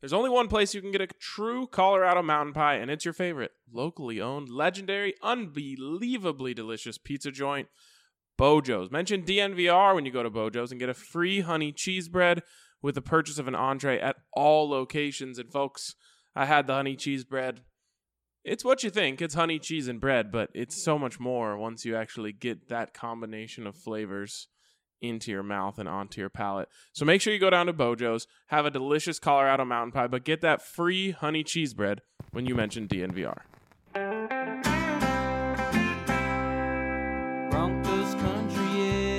There's only one place you can get a true Colorado mountain pie, and it's your favorite, locally owned, legendary, unbelievably delicious pizza joint, Bojo's. Mention DNVR when you go to Bojo's and get a free honey cheese bread with the purchase of an entree at all locations. And folks, I had the honey cheese bread. It's what you think. It's honey, cheese, and bread, but it's so much more once you actually get that combination of flavors into your mouth and onto your palate. So make sure you go down to Bojo's, have a delicious Colorado mountain pie, but get that free honey cheese bread when you mention DNVR. Broncos country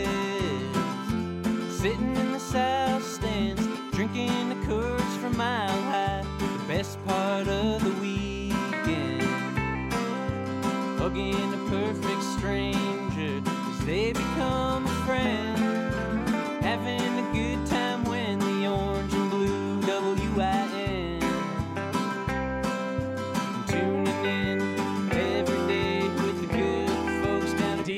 is sitting in the south stands, drinking the Coors from Mile High. The best part of the weekend, hugging a perfect stranger as they become a friend. Having a good time when the orange and blue WIN. Tuning in every day with the good folks down at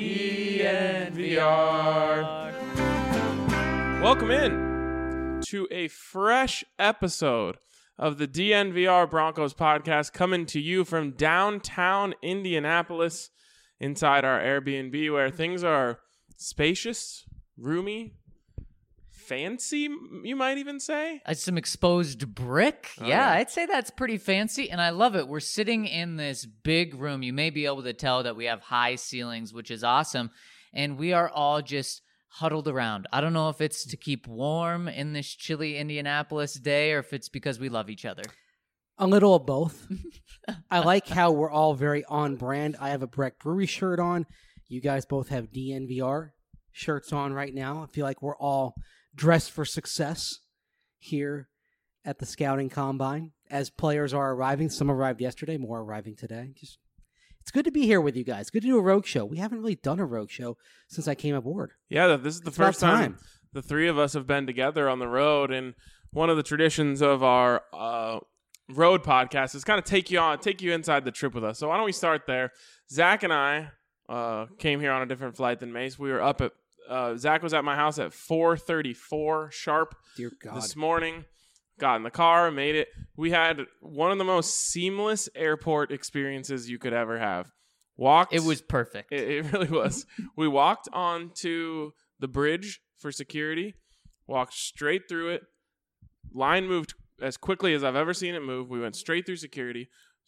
DNVR. Welcome in to a fresh episode of the DNVR Broncos podcast, coming to you from downtown Indianapolis inside our Airbnb, where things are spacious, roomy, fancy, you might even say. Some exposed brick. Oh, Yeah, yeah. I'd say that's pretty fancy, and I love it. We're sitting in this big room. You may be able to tell that we have high ceilings, which is awesome, and we are all just huddled around. I don't know if it's to keep warm in this chilly Indianapolis day or if it's because we love each other. A little of both. I like how we're all very on brand. I have a Breck Brewery shirt on. You guys both have DNVR shirts on right now. I feel like we're all dressed for success here at the Scouting Combine. As players are arriving, some arrived yesterday, more arriving today. It's good to be here with you guys. Good to do a rogue show. We haven't really done a rogue show since I came aboard. Yeah, this is the It's first about time the three of us have been together on the road, and one of the traditions of our road podcast is kind of take you inside the trip with us. So why don't we start there? Zach and I came here on a different flight than Mace. We were up at Zach was at my house at 4:34 sharp. Dear God. This morning. Got in the car, made it. We had one of the most seamless airport experiences you could ever have. It was perfect. It really was. We walked onto the bridge for security, walked straight through it. Line moved as quickly as I've ever seen it move. We went straight through security.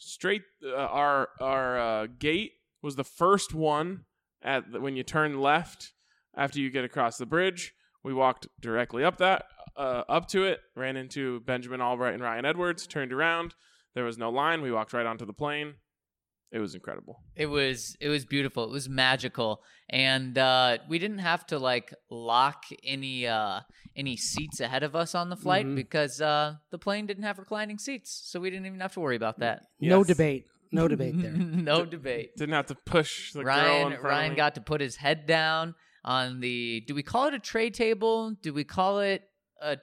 Our gate was the first one when you turn left after you get across the bridge. We walked directly up to it, ran into Benjamin Albright and Ryan Edwards, turned around. There was no line. We walked right onto the plane. It was incredible. It was beautiful. It was magical, and we didn't have to lock any seats ahead of us on the flight because the plane didn't have reclining seats, so we didn't even have to worry about that. No Yes. debate. No debate there. No debate. Didn't have to push the girl in front Ryan of me. got to put his head down on the. Do we call it a tray table? Do we call it a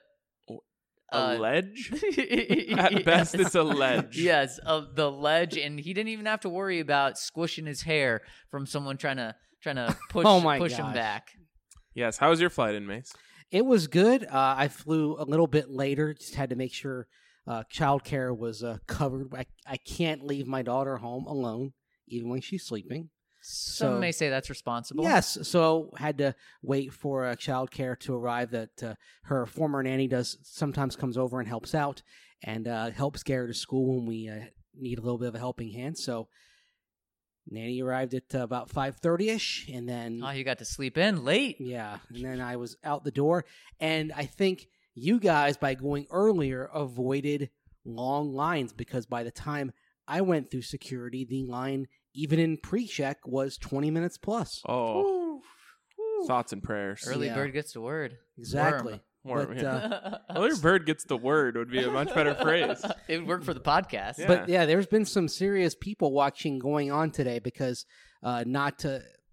ledge? At best, it's a ledge. Yes, the ledge, and he didn't even have to worry about squishing his hair from someone trying to push Oh my push him gosh. back. Yes. How was your flight in, Mace? It was good. I flew a little bit later. Just had to make sure childcare was covered. I can't leave my daughter home alone, even when she's sleeping. Some may say that's responsible. Yes, so had to wait for childcare to arrive. That her former nanny sometimes comes over and helps out and helps get her to school when we need a little bit of a helping hand. So nanny arrived at about 5:30ish, and then Oh, you got to sleep in late. yeah, and then I was out the door. And I think you guys, by going earlier, avoided long lines because by the time I went through security, the line, even in pre-check, was 20 minutes plus. Oh, thoughts and prayers. Early Yeah. bird gets the word. Exactly. Worm, But, yeah. Early bird gets the word would be a much better phrase. It would work for the podcast. Yeah. But yeah, there's been some serious people watching going on today because not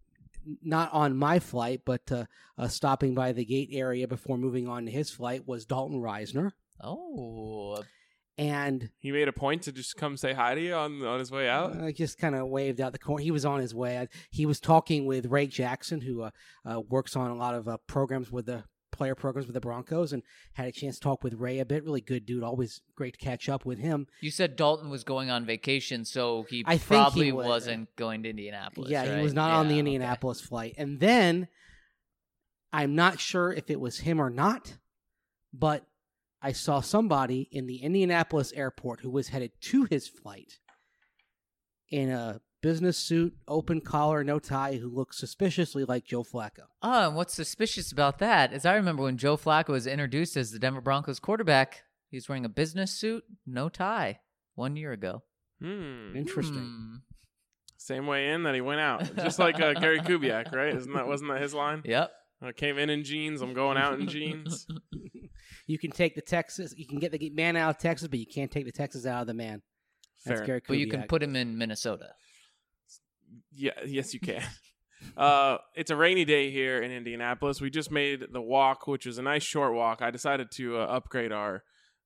on my flight, but stopping by the gate area before moving on to his flight was Dalton Reisner. Oh, And He made a point to just come say hi to you on his way out. I just kind of waved out the corner. He was on his way. He was talking with Ray Jackson, who works on a lot of programs with the player programs with the Broncos and had a chance to talk with Ray a bit. Really good dude. Always great to catch up with him. You said Dalton was going on vacation, so he I think probably he was. wasn't going to Indianapolis. Yeah, right? he was not on the Yeah, Indianapolis flight. And then I'm not sure if it was him or not, but I saw somebody in the Indianapolis airport who was headed to his flight in a business suit, open collar, no tie, who looked suspiciously like Joe Flacco. Oh, and what's suspicious about that is I remember when Joe Flacco was introduced as the Denver Broncos quarterback, he was wearing a business suit, no tie, 1 year ago. Interesting. Same way in that he went out, just like Gary Kubiak, right? Wasn't that his line? Yep. I came in jeans. I'm going out in jeans. You can take the Texas, you can get the man out of Texas, but you can't take the Texas out of the man. That's Fair. Gary Kubiak. But you can put him in Minnesota. Yeah, yes, you can. It's a rainy day here in Indianapolis. We just made the walk, which was a nice short walk. I decided to upgrade our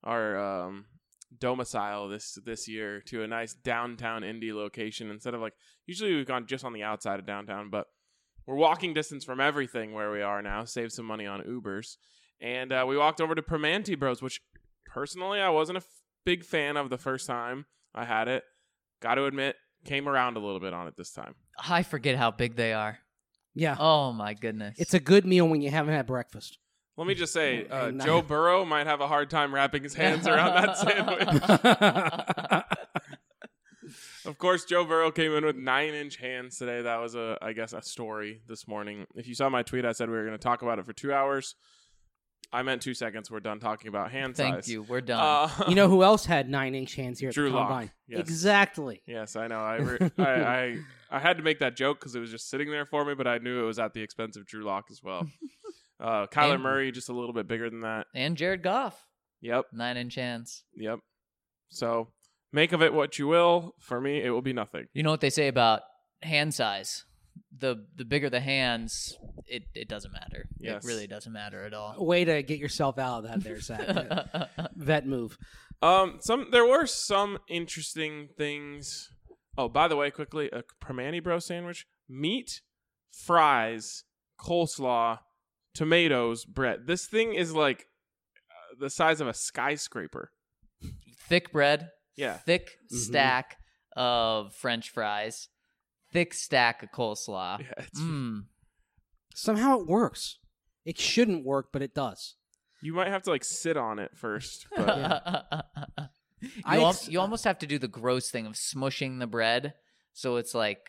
domicile this year to a nice downtown Indy location instead of usually we've gone just on the outside of downtown, but we're walking distance from everything where we are now. Save some money on Ubers, and we walked over to Primanti Bros, which personally I wasn't a big fan of the first time I had it. Got to admit. Came around a little bit on it this time. I forget how big they are. Yeah. Oh, my goodness. It's a good meal when you haven't had breakfast. Let me just say, And, Joe Burrow might have a hard time wrapping his hands around that sandwich. Of course, Joe Burrow came in with 9-inch hands today. That was, I guess, a story this morning. If you saw my tweet, I said we were going to talk about it for 2 hours. I meant 2 seconds. We're done talking about hand size. Thank you. We're done. You know who else had 9-inch hands here at Drew the Lock. Combine? Yes. Exactly. Yes, I know. I had to make that joke because it was just sitting there for me, but I knew it was at the expense of Drew Lock as well. Kyler And- Murray, just a little bit bigger than that. And Jared Goff, Yep. 9-inch hands. Yep. So make of it what you will. For me, it will be nothing. You know what they say about hand size? The bigger the hands, it doesn't matter. Yes. It really doesn't matter at all. Way to get yourself out of that there, Zach. Vet move. There were some interesting things. Oh, by the way, quickly, a Primanti Bro sandwich, meat, fries, coleslaw, tomatoes, bread. This thing is like the size of a skyscraper. Thick bread, Yeah. thick stack of French fries, thick stack of coleslaw. Yeah, it's, Somehow it works. It shouldn't work, but it does. you might have to sit on it first. But You almost have to do the gross thing of smushing the bread so it's like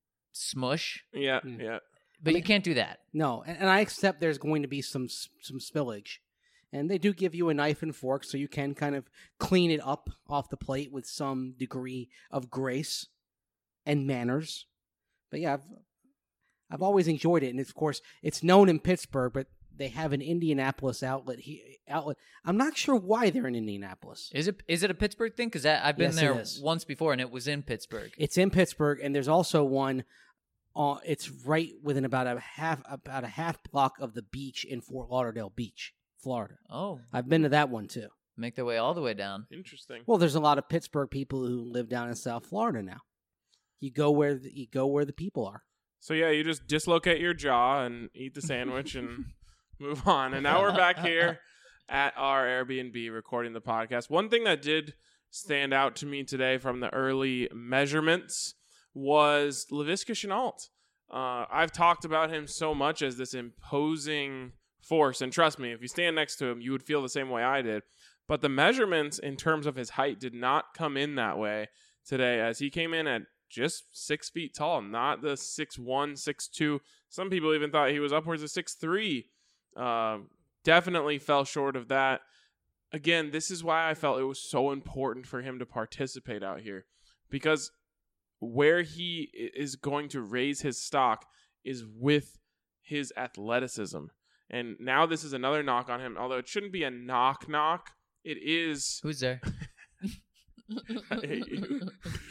smush, yeah. but you can't do that. No, and I accept there's going to be some spillage. And they do give you a knife and fork so you can kind of clean it up off the plate with some degree of grace and manners. But yeah, I've always enjoyed it. And of course, it's known in Pittsburgh, but they have an Indianapolis outlet. I'm not sure why they're in Indianapolis. Is it a Pittsburgh thing? Because I've been Yes, it there is. once before, and it was in Pittsburgh. It's in Pittsburgh, and there's also one. It's right within about a half block of the beach in Fort Lauderdale Beach, Florida. Oh, I've been to that one too. make their way all the way down. Interesting. Well, there's a lot of Pittsburgh people who live down in South Florida now. You go where the people are. So yeah, you just dislocate your jaw and eat the sandwich and move on. And now we're back here at our Airbnb recording the podcast. One thing that did stand out to me today from the early measurements was Laviska Shenault. I've talked about him so much as this imposing force, and trust me, if you stand next to him, you would feel the same way I did. But the measurements in terms of his height did not come in that way today, as he came in at just 6 feet tall, not the 6'1", 6'2". Some people even thought he was upwards of 6'3". Definitely fell short of that. Again, this is why I felt it was so important for him to participate out here, because where he is going to raise his stock is with his athleticism. And now this is another knock on him, although it shouldn't be a knock. It is. Who's there? I hate you.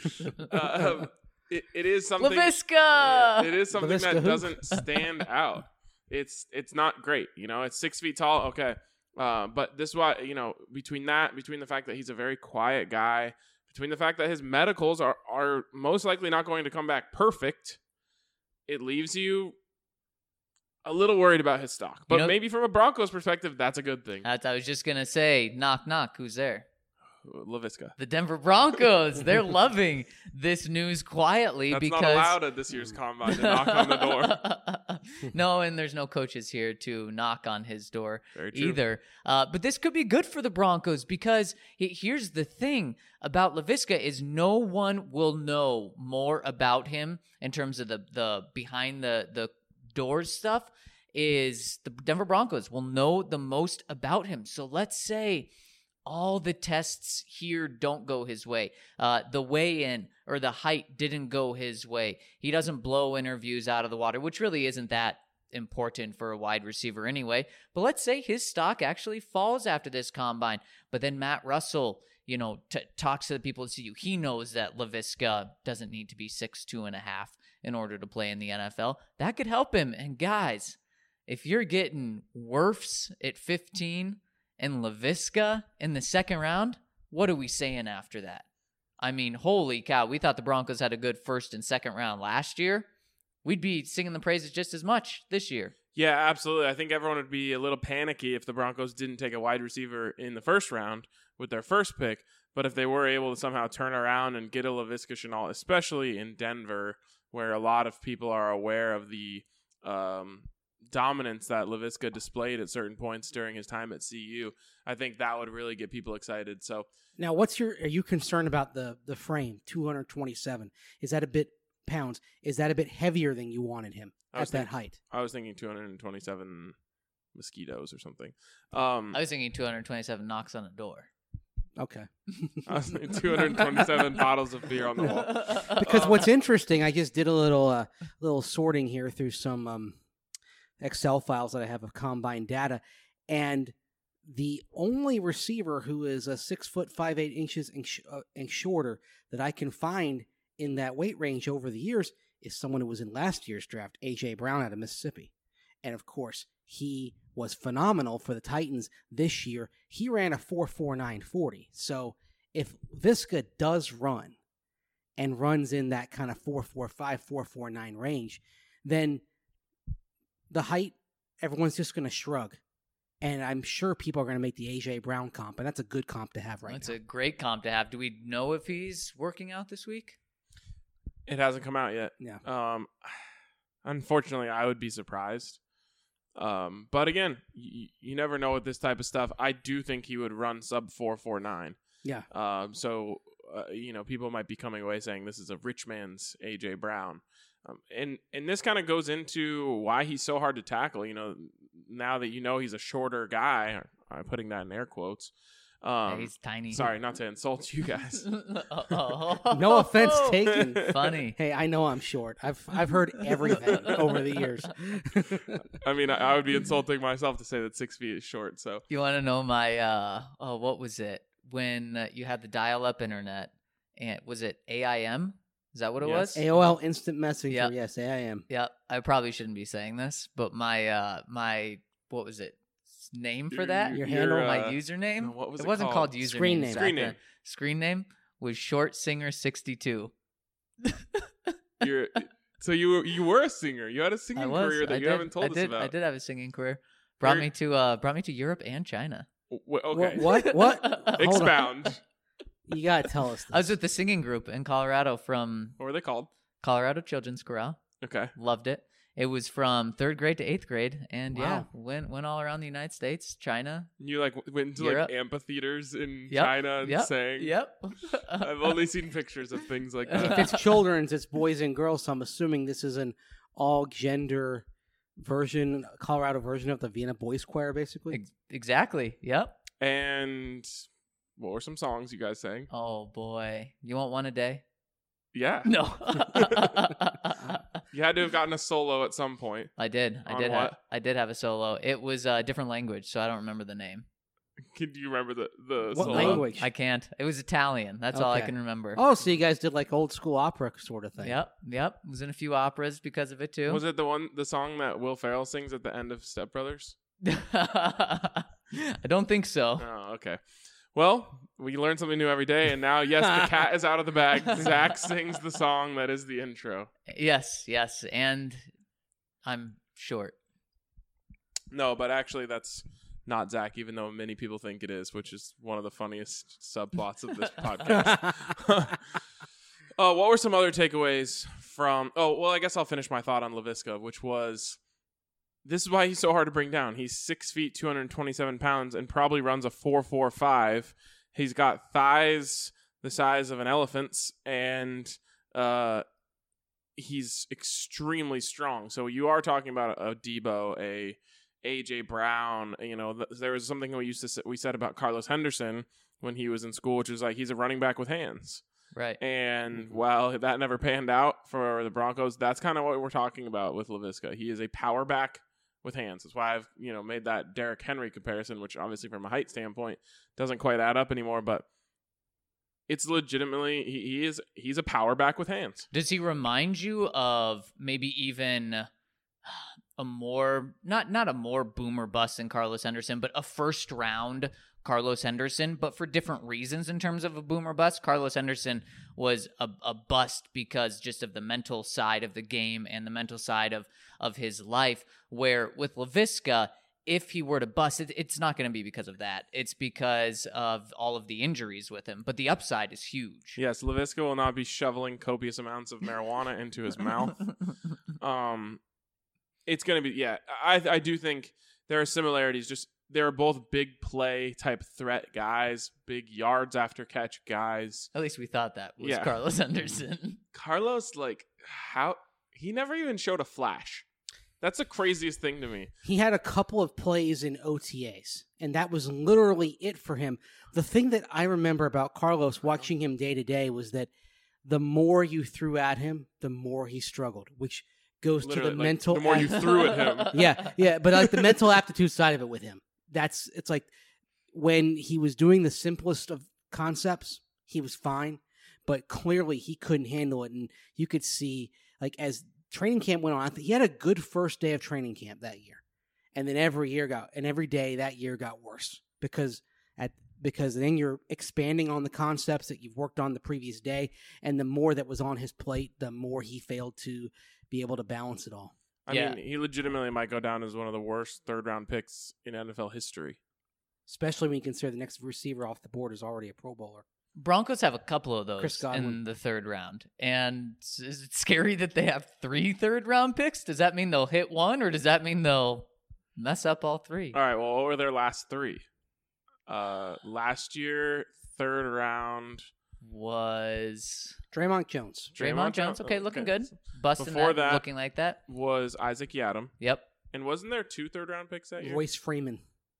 It is something. Laviska! Yeah, it is something Laviska that who? doesn't stand out. It's not great. It's 6 feet tall. Okay. But this is why, between the fact that he's a very quiet guy, between the fact that his medicals are most likely not going to come back perfect, it leaves you a little worried about his stock. But know- maybe from a Broncos perspective, that's a good thing. I was just gonna say, knock knock, who's there? LaVisca. The Denver Broncos. They're loving this news quietly That's because not allowed at this year's combine to knock on the door. No, and there's no coaches here to knock on his door Very true. either. But this could be good for the Broncos because here's the thing about LaVisca is no one will know more about him in terms of the behind the doors stuff is the Denver Broncos will know the most about him. So let's say all the tests here don't go his way. The weigh-in or the height didn't go his way. He doesn't blow interviews out of the water, which really isn't that important for a wide receiver anyway. But let's say his stock actually falls after this combine. But then Matt Russell, talks to the people at CU. He knows that LaVisca doesn't need to be 6'2.5" in order to play in the NFL. That could help him. And guys, if you're getting Wirfs at 15 and LaVisca in the second round, what are we saying after that? I mean, holy cow, we thought the Broncos had a good first and second round last year. We'd be singing the praises just as much this year. Yeah, absolutely. I think everyone would be a little panicky if the Broncos didn't take a wide receiver in the first round with their first pick. But if they were able to somehow turn around and get a LaVisca Chenault, especially in Denver, where a lot of people are aware of the dominance that LaVisca displayed at certain points during his time at CU, I think that would really get people excited. So Now, are you concerned about the frame, 227? Is that a bit pounds? Is that a bit heavier than you wanted him at that height? I was thinking 227 mosquitoes or something. I was thinking 227 knocks on a door. Okay. I was thinking 227 bottles of beer on the wall. Because what's interesting, I just did a little sorting here through some Excel files that I have of combine data, and the only receiver who is a 6'5" and shorter that I can find in that weight range over the years is someone who was in last year's draft, A.J. Brown out of Mississippi. And of course, he was phenomenal for the Titans this year. He ran a 4.4940. So if Visca does run and runs in that kind of 4.45, 4.49 range, then the height, everyone's just going to shrug. And I'm sure people are going to make the A.J. Brown comp, and that's a good comp to have right That's now. a great comp to have. Do we know if he's working out this week? It hasn't come out yet. Yeah. Unfortunately, I would be surprised. But again, you never know with this type of stuff. I do think he would run sub 4.49. Yeah. So people might be coming away saying this is a rich man's A.J. Brown. And this kind of goes into why he's so hard to tackle. Now that he's a shorter guy, I'm putting that in air quotes. Yeah, he's tiny. Sorry, not to insult you guys. No offense taken. Funny. Hey, I know I'm short. I've heard everything over the years. I mean, I would be insulting myself to say that 6 feet is short. So You want to know my, what was it? When you had the dial-up internet, and was it AIM? Is that what it Yes. was? AOL Instant Messenger. Yep. Yes, AIM. Yeah, I probably shouldn't be saying this, but my what was it? Name for that? Your handle? My username? what was it it wasn't called? called username. Screen name. back Screen then. name. Screen name was Short Singer 62. So you were a singer. You had a singing I was. career that I you did, haven't told I us did, about. I did have a singing career. Brought me to Europe and China. Okay. What? Hold on. Expound. You gotta tell us. This. I was with the singing group in Colorado from What were they called? Colorado Children's Chorale. Okay. Loved it. It was from 3rd grade to 8th grade, and yeah, Wow. went all around the United States, China. You went to Europe. amphitheaters in Yep, China and yep, sang. Yep. I've only seen pictures of things like If that. it's children's, it's boys and girls. So I'm assuming this is an all-gender version, Colorado version of the Vienna Boys Choir, basically. Exactly. Yep. And what were some songs you guys sang? Oh boy, you want one a day? Yeah. No. You had to have gotten a solo at some point. I did. On what? I did have a solo. It was a different language, so I don't remember the name. Can you remember the What solo? language? I can't. It was Italian. That's all I Okay. can remember. Oh, so you guys did like old school opera sort of thing. Yep. Was in a few operas because of it too. Was it the song that Will Ferrell sings at the end of Step Brothers? I don't think so. Oh, okay. Well, we learn something new every day, and now, yes, the cat is out of the bag. Zach sings the song that is the intro. Yes, and I'm short. No, but actually that's not Zach, even though many people think it is, which is one of the funniest subplots of this podcast. What were some other takeaways from... Oh, well, I guess I'll finish my thought on Laviska, which was... This is why he's so hard to bring down. He's 6 feet, 227 pounds, and probably runs a 4.45. He's got thighs the size of an elephant's, and he's extremely strong. So you are talking about a Debo, a AJ Brown. You know, there was something we said about Carlos Henderson when he was in school, which is like he's a running back with hands. Right. And while that never panned out for the Broncos, that's kind of what we're talking about with Laviska. He is a power back with hands. That's why I've made that Derrick Henry comparison, which obviously from a height standpoint doesn't quite add up anymore, but it's legitimately he's a power back with hands. Does he remind you of maybe even a more not a more boomer bust than Carlos Henderson, but a first round Carlos Henderson, but for different reasons in terms of a boomer bust? Carlos Henderson was a bust because just of the mental side of the game and the mental side of his life, where with Laviska, if he were to bust, it's not going to be because of that. It's because of all of the injuries with him, but the upside is huge. Yes, Laviska will not be shoveling copious amounts of marijuana into his mouth. It's going to be, I do think there are similarities. Just they're both big play type threat guys, big yards after catch guys. At least we thought that was Carlos Henderson. Carlos, he never even showed a flash. That's the craziest thing to me. He had a couple of plays in OTAs, and that was literally it for him. The thing that I remember about Carlos watching him day to day was that the more you threw at him, the more he struggled, which goes Literally, to the mental. The more you threw at him. Yeah, but like the mental aptitude side of it with him. It's like when he was doing the simplest of concepts, he was fine, but clearly he couldn't handle it, and you could see as training camp went on, I think he had a good first day of training camp that year, and then every day that year got worse because then you're expanding on the concepts that you've worked on the previous day, and the more that was on his plate, the more he failed to be able to balance it all. I mean, he legitimately might go down as one of the worst third-round picks in NFL history. Especially when you consider the next receiver off the board is already a Pro Bowler. Broncos have a couple of those Chris Godwin in the third round. And is it scary that they have 3 third-round picks? Does that mean they'll hit one, or does that mean they'll mess up all 3? All right, well, what were their last 3? Last year, third round was Draymond Jones. Draymond Jones. Okay, looking good. Busting Before that, looking like that. Was Isaac Yiadom. Yep. And wasn't there 2 third-round picks that year? Royce Freeman.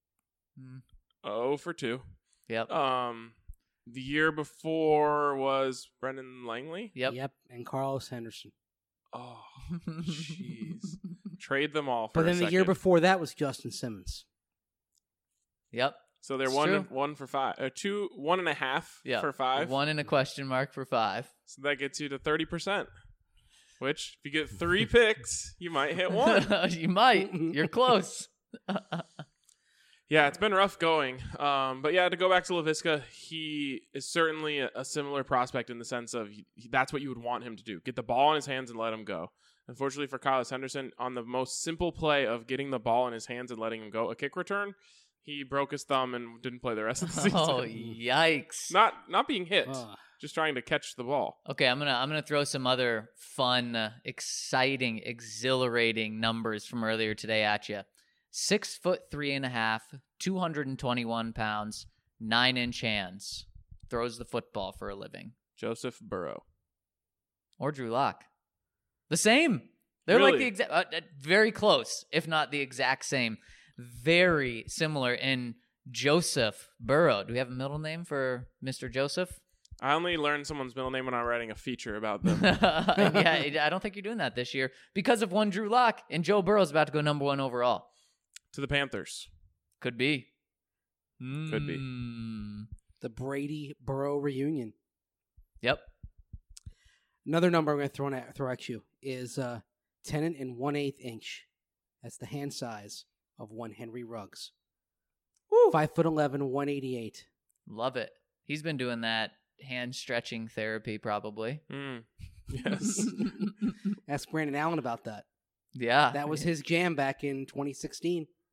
0 for 2. Yep. The year before was Brendan Langley. Yep. And Carlos Henderson. Oh, jeez. Trade them all for But then the year before that was Justin Simmons. Yep. So they're one for 5. 1.5 for 5. 1 and a question mark for 5. So that gets you to 30%. Which, if you get 3 picks, you might hit 1. You might. You're close. Yeah, it's been rough going. But yeah, to go back to Laviska, he is certainly a similar prospect in the sense of that's what you would want him to do. Get the ball in his hands and let him go. Unfortunately for Carlos Henderson, on the most simple play of getting the ball in his hands and letting him go, a kick return, he broke his thumb and didn't play the rest of the season. Oh, yikes. Not being hit, just trying to catch the ball. Okay, I'm gonna throw some other fun, exciting, exhilarating numbers from earlier today at you. 6'3.5", 221 pounds, 9-inch hands. Throws the football for a living. Joseph Burrow. Or Drew Lock. The same. They're Really? like the exact, very close, if not the exact same. Very similar in Joseph Burrow. Do we have a middle name for Mr. Joseph? I only learned someone's middle name when I'm writing a feature about them. Yeah, I don't think you're doing that this year because of one Drew Lock, and Joe Burrow's about to go number 1 overall. To the Panthers. Could be. Could be. The Brady-Burrow reunion. Yep. Another number I'm going to throw at you is 10 1/8 inch. That's the hand size of one Henry Ruggs. 5'11", 188. Love it. He's been doing that hand stretching therapy probably. Yes. Ask Brandon Allen about that. Yeah. That was his jam back in 2016.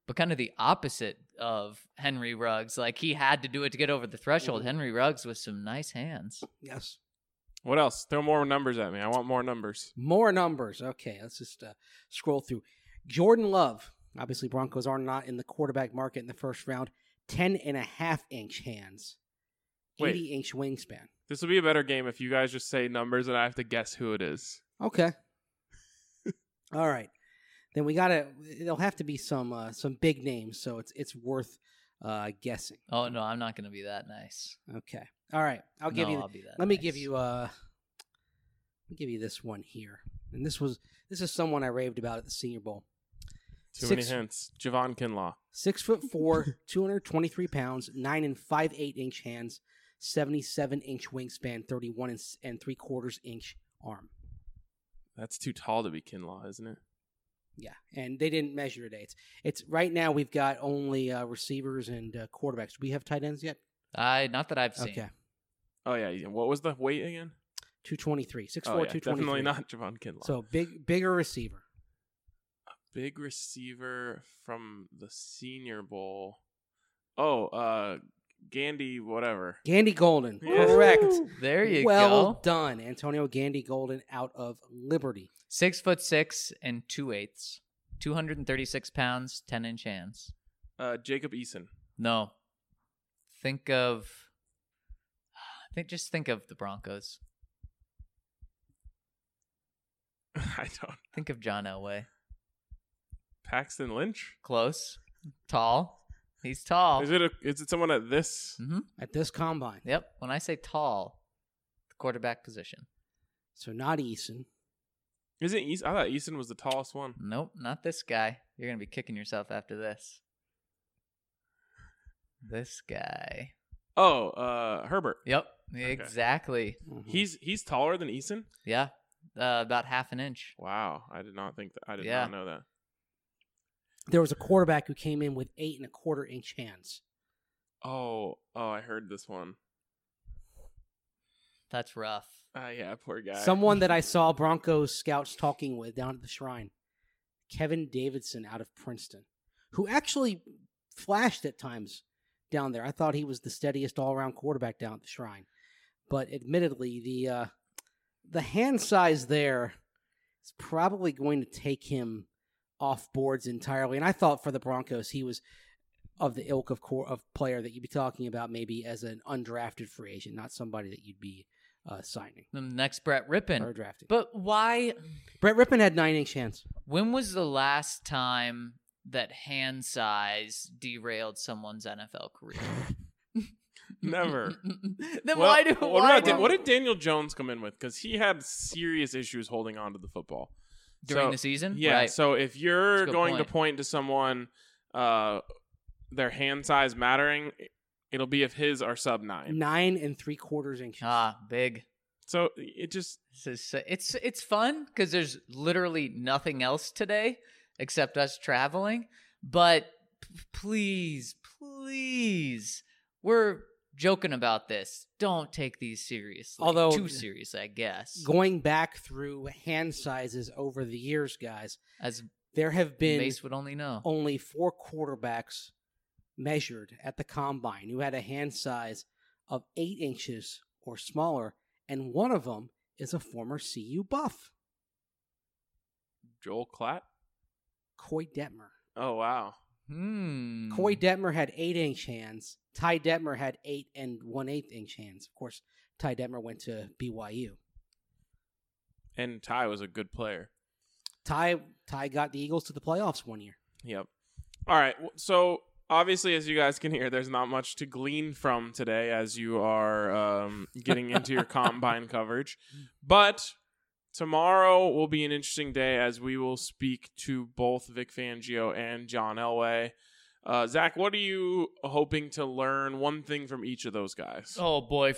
but kind of the opposite of Henry Ruggs. Like, he had to do it to get over the threshold. Henry Ruggs with some nice hands. Yes. What else? Throw more numbers at me. I want more numbers. More numbers. Okay, let's just scroll through. Jordan Love. Obviously, Broncos are not in the quarterback market in the first round. 10.5-inch hands. Wait. 80-inch wingspan. This will be a better game if you guys just say numbers and I have to guess who it is. Okay. All right. Then we gotta. It'll have to be some big names, so it's worth guessing. Oh, no, I'm not going to be that nice. Okay. All right. I'll give you. I'll be that Let me nice. give you. Let me give you this one here, and this is someone I raved about at the Senior Bowl. Too many hints. Javon Kinlaw. 6'4", 223 pounds, 9 5/8-inch hands, 77-inch wingspan, 31 3/4-inch arm. That's too tall to be Kinlaw, isn't it? Yeah, and they didn't measure today. It's right now we've got only receivers and quarterbacks. Do we have tight ends yet? Not that I've seen. Okay, Oh, yeah. What was the weight again? 223, 6'4", Oh, yeah. 223. Definitely not Javon Kinlaw. So bigger receiver. Big receiver from the Senior Bowl. Oh, Gandy, whatever. Gandy Golden, Yeah. correct. There you Well go. done, Antonio Gandy Golden out of Liberty. 6'6" and 2/8, 236 pounds, 10-inch hands. Jacob Eason. No. Just think of the Broncos. I don't. Think of John Elway. Paxton Lynch. Close. Tall. He's tall. Is it someone at this? Mm-hmm. At this combine. Yep. When I say tall, the quarterback position. So not Eason. Is it Eason? I thought Eason was the tallest one. Nope, not this guy. You're going to be kicking yourself after this. This guy. Oh, Herbert. Yep, exactly. Mhm. He's taller than Eason. Yeah, about half an inch. Wow, I did not think that. I did Yeah. not know that. There was a quarterback who came in with 8 1/4-inch hands. Oh, I heard this one. That's rough. Yeah, poor guy. Someone that I saw Broncos scouts talking with down at the Shrine. Kevin Davidson out of Princeton, who actually flashed at times down there. I thought he was the steadiest all-around quarterback down at the Shrine. But admittedly, the hand size there is probably going to take him off boards entirely. And I thought for the Broncos, he was of the ilk of player that you'd be talking about maybe as an undrafted free agent, not somebody that you'd be signing The next Brett Rippon. or drafting. But why? Brett Rippon had 9-inch hands. When was the last time that hand size derailed someone's NFL career? Never. Then Well, why what did Daniel Jones come in with? Because he had serious issues holding on to the football during So, the season? Yeah. Right. So if you're That's a good going to point. point to someone, their hand size mattering, it'll be if his are sub 9. 9 3/4 inches. Big. So it just It's fun because there's literally nothing else today except us traveling. But please, we're joking about this. Don't take these seriously. Although- too serious, I guess. Going back through hand sizes over the years, guys, As there have been Mace would only know. only 4 quarterbacks measured at the combine who had a hand size of 8 inches or smaller, and one of them is a former CU Buff, Joel Klatt. Coy Detmer. Oh wow. Coy Detmer had 8-inch hands. Ty Detmer had 8 1/8-inch hands. Of course, Ty Detmer went to BYU. And Ty was a good player. Ty got the Eagles to the playoffs one year. Yep. All right. So obviously, as you guys can hear, there's not much to glean from today as you are getting into your combine coverage. But tomorrow will be an interesting day as we will speak to both Vic Fangio and John Elway. Zach, what are you hoping to learn one thing from each of those guys? Oh boy,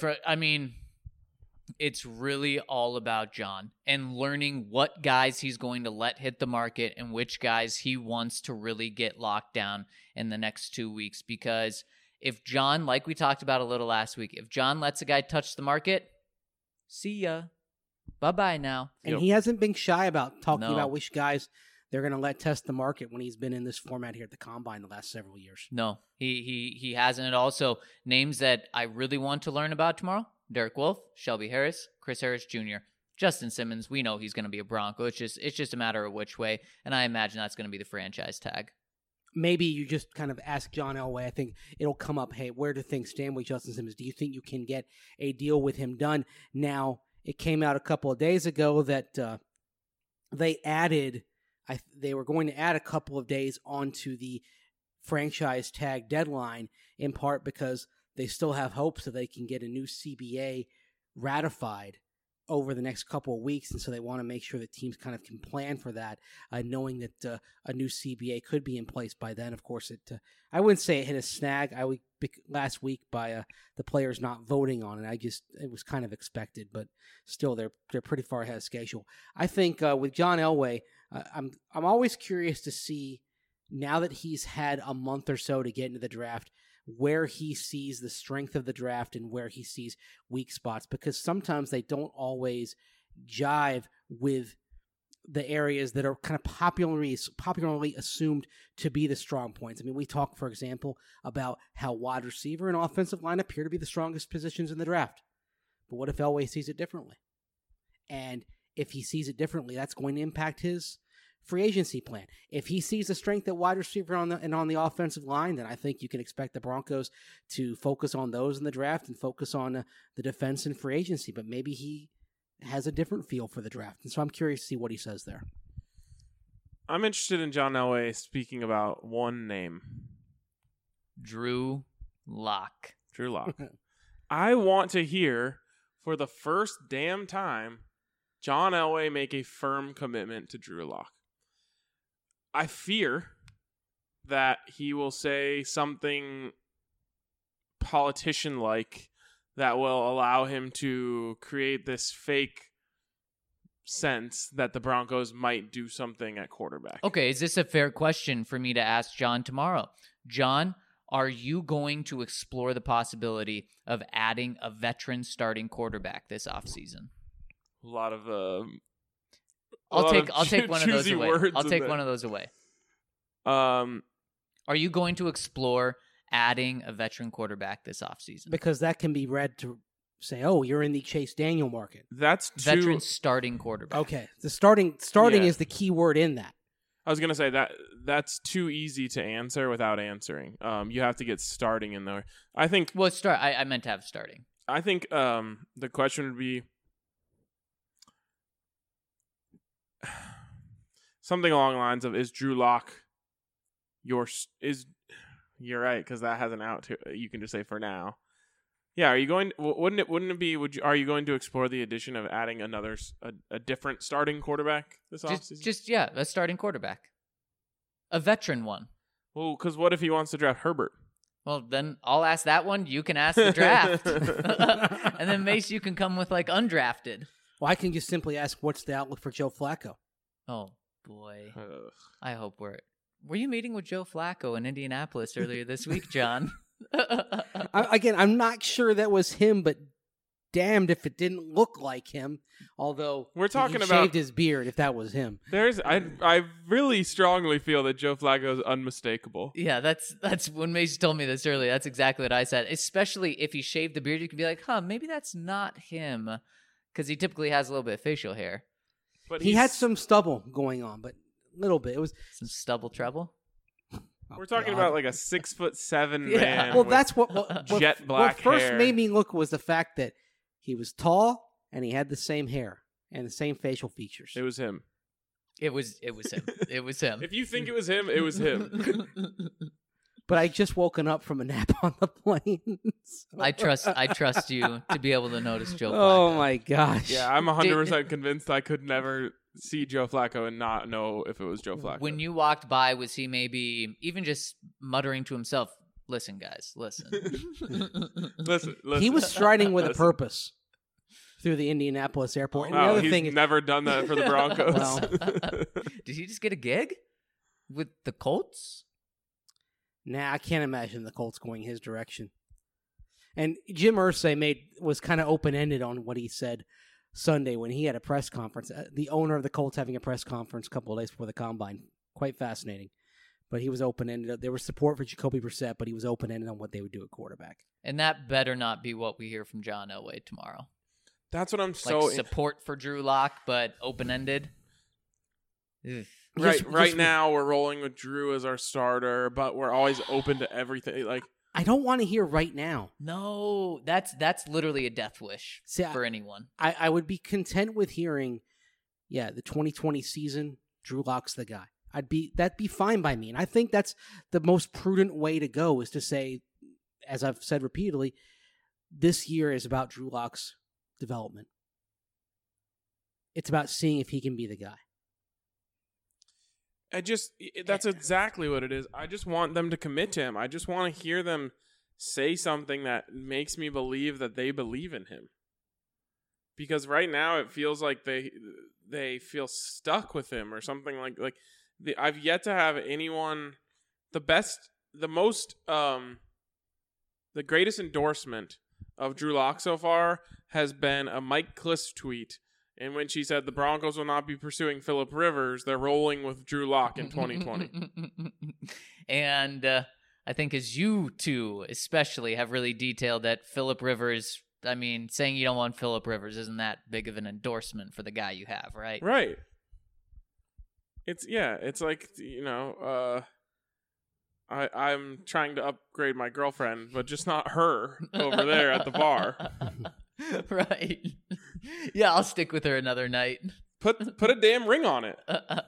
it's really all about John and learning what guys he's going to let hit the market and which guys he wants to really get locked down in the next 2 weeks. Because if John, like we talked about a little last week, if John lets a guy touch the market, see ya. Bye-bye now. And Yep. he hasn't been shy about talking No. about which guys they're going to let test the market when he's been in this format here at the Combine the last several years. No, he hasn't. And also, names that I really want to learn about tomorrow: Derek Wolfe, Shelby Harris, Chris Harris Jr., Justin Simmons. We know he's going to be a Bronco. It's just a matter of which way, and I imagine that's going to be the franchise tag. Maybe you just kind of ask John Elway. I think it'll come up, hey, where do things stand with Justin Simmons? Do you think you can get a deal with him done? Now, it came out a couple of days ago that they were going to add a couple of days onto the franchise tag deadline, in part because they still have hopes that they can get a new CBA ratified over the next couple of weeks, and so they want to make sure that teams kind of can plan for that, knowing that a new CBA could be in place by then. Of course, I wouldn't say it hit a snag last week by the players not voting on it. It was kind of expected, but still, they're pretty far ahead of schedule. I think with John Elway, I'm always curious to see, now that he's had a month or so to get into the draft, where he sees the strength of the draft and where he sees weak spots, because sometimes they don't always jive with the areas that are kind of popularly assumed to be the strong points. I mean, we talk, for example, about how wide receiver and offensive line appear to be the strongest positions in the draft. But what if Elway sees it differently? And if he sees it differently, that's going to impact his free agency plan. If he sees the strength at wide receiver on the offensive line, then I think you can expect the Broncos to focus on those in the draft and focus on the defense and free agency. But maybe he has a different feel for the draft, and so I'm curious to see what he says there. I'm interested in John Elway speaking about one name. Drew Lock. Drew Lock. I want to hear, for the first damn time, John Elway make a firm commitment to Drew Lock. I fear that he will say something politician-like that will allow him to create this fake sense that the Broncos might do something at quarterback. Okay, is this a fair question for me to ask John tomorrow? John, are you going to explore the possibility of adding a veteran starting quarterback this offseason? A lot of I'll take one of those away. I'll take there. one of those away. Are you going to explore adding a veteran quarterback this offseason? Because that can be read to say, oh, you're in the Chase Daniel market. That's veteran starting quarterback. Okay. The starting is the key word in that. I was going to say that's too easy to answer without answering. You have to get starting in there. I think. Well, I meant to have starting. I think the question would be something along the lines of, is Drew Lock you're right, because that has an out to it. You can just say for now. Yeah, are you going? Wouldn't it be? Are you going to explore the addition of adding a different starting quarterback this offseason? A starting quarterback, a veteran one. Well, because what if he wants to draft Herbert? Well, then I'll ask that one. You can ask the draft, and then Mace, you can come with like undrafted. Well, I can just simply ask, what's the outlook for Joe Flacco? Oh boy, I hope Were you meeting with Joe Flacco in Indianapolis earlier this week, John? I'm not sure that was him, but damned if it didn't look like him. Although we're talking he about shaved his beard, if that was him. I really strongly feel that Joe Flacco is unmistakable. Yeah, that's when Mace told me this earlier. That's exactly what I said. Especially if he shaved the beard, you could be like, maybe that's not him, because he typically has a little bit of facial hair. But he had some stubble going on, but a little bit. It was some stubble trouble. We're talking about like a 6'7" man. Well, that's what jet black what first hair. made me look was the fact that he was tall and he had the same hair and the same facial features. It was him. It was him. It was him. If you think it was him, it was him. But I just woken up from a nap on the plane. So. I trust you to be able to notice Joe Flacco. Oh my gosh. Yeah, I'm 100% convinced I could never see Joe Flacco and not know if it was Joe Flacco. When you walked by, was he maybe even just muttering to himself, listen, guys, listen. listen. He was striding with a purpose through the Indianapolis airport. And the other he's thing is, never done that for the Broncos. Well, did he just get a gig with the Colts? Nah, I can't imagine the Colts going his direction. And Jim Irsay was kind of open-ended on what he said Sunday when he had a press conference. The owner of the Colts having a press conference a couple of days before the Combine. Quite fascinating. But he was open-ended. There was support for Jacoby Brissett, but he was open-ended on what they would do at quarterback. And that better not be what we hear from John Elway tomorrow. That's what I'm Like support for Drew Lock, but open-ended. Ugh. Right now, we're rolling with Drew as our starter, but we're always open to everything. Like, I don't want to hear right now. No, that's literally a death wish for anyone. I would be content with hearing, the 2020 season, Drew Lock's the guy. That'd be fine by me. And I think that's the most prudent way to go, is to say, as I've said repeatedly, this year is about Drew Lock's development. It's about seeing if he can be the guy. That's exactly what it is. I just want them to commit to him. I just want to hear them say something that makes me believe that they believe in him. Because right now it feels like they feel stuck with him or something I've yet to have anyone, the greatest endorsement of Drew Lock so far has been a Mike Kliss tweet. And when she said the Broncos will not be pursuing Phillip Rivers, they're rolling with Drew Lock in 2020. And I think as you two especially have really detailed that Phillip Rivers, I mean, saying you don't want Phillip Rivers isn't that big of an endorsement for the guy you have, right? Right. It's like, I'm trying to upgrade my girlfriend, but just not her over there at the bar. Right. Yeah, I'll stick with her another night. Put a damn ring on it.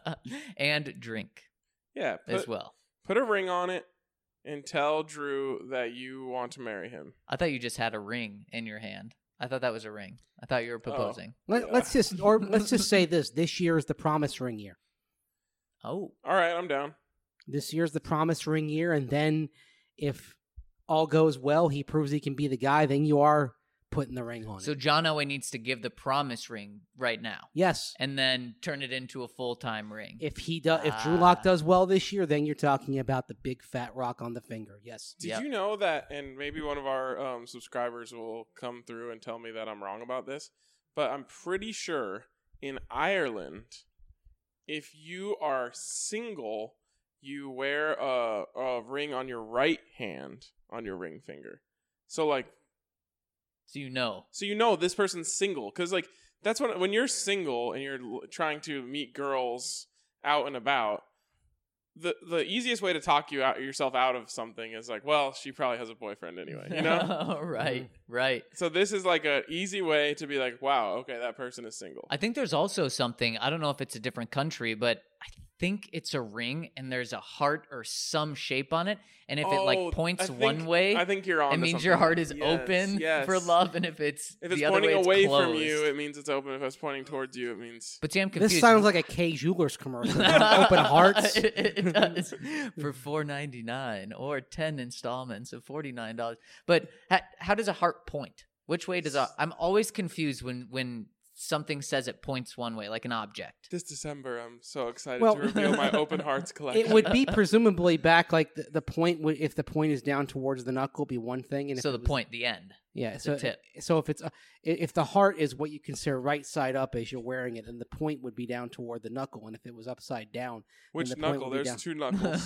And drink. Yeah. As well. Put a ring on it and tell Drew that you want to marry him. I thought you just had a ring in your hand. I thought that was a ring. I thought you were proposing. Let's just say this. This year is the promise ring year. Oh. All right, I'm down. This year's the promise ring year, and then if all goes well, he proves he can be the guy, then you are putting the ring on it. So John Elway needs to give the promise ring right now. Yes. And then turn it into a full-time ring. If Drew Lock does well this year, then you're talking about the big fat rock on the finger. Yes. Did you know that, and maybe one of our subscribers will come through and tell me that I'm wrong about this, but I'm pretty sure in Ireland, if you are single, you wear a ring on your right hand on your ring finger. So you know this person's single, because that's when you're single and you're trying to meet girls out and about, the easiest way to talk yourself out of something is well, she probably has a boyfriend anyway, you know? Right. So this is a easy way to be wow, okay, that person is single. I think there's also something, I don't know if it's a different country, but I think it's a ring and there's a heart or some shape on it, and if it points one way, I think you're on. It means your heart is open for love, and if it's the other pointing way, it's away closed. from you, it means it's open. If it's pointing towards you, it means. But see, I'm confused. This sounds like a Kay Jewelers commercial. Open hearts. It does for $4.99 or 10 installments of $49. But how does a heart point? Which way does I'm always confused when something says it points one way, like an object. This December, I'm so excited to reveal my Open Hearts collection. It would be presumably back the point if the point is down towards the knuckle, be one thing, and so the end. Yeah, the tip. So if it's if the heart is what you consider right side up as you're wearing it, then the point would be down toward the knuckle, and if it was upside down, which the knuckle? There's two knuckles.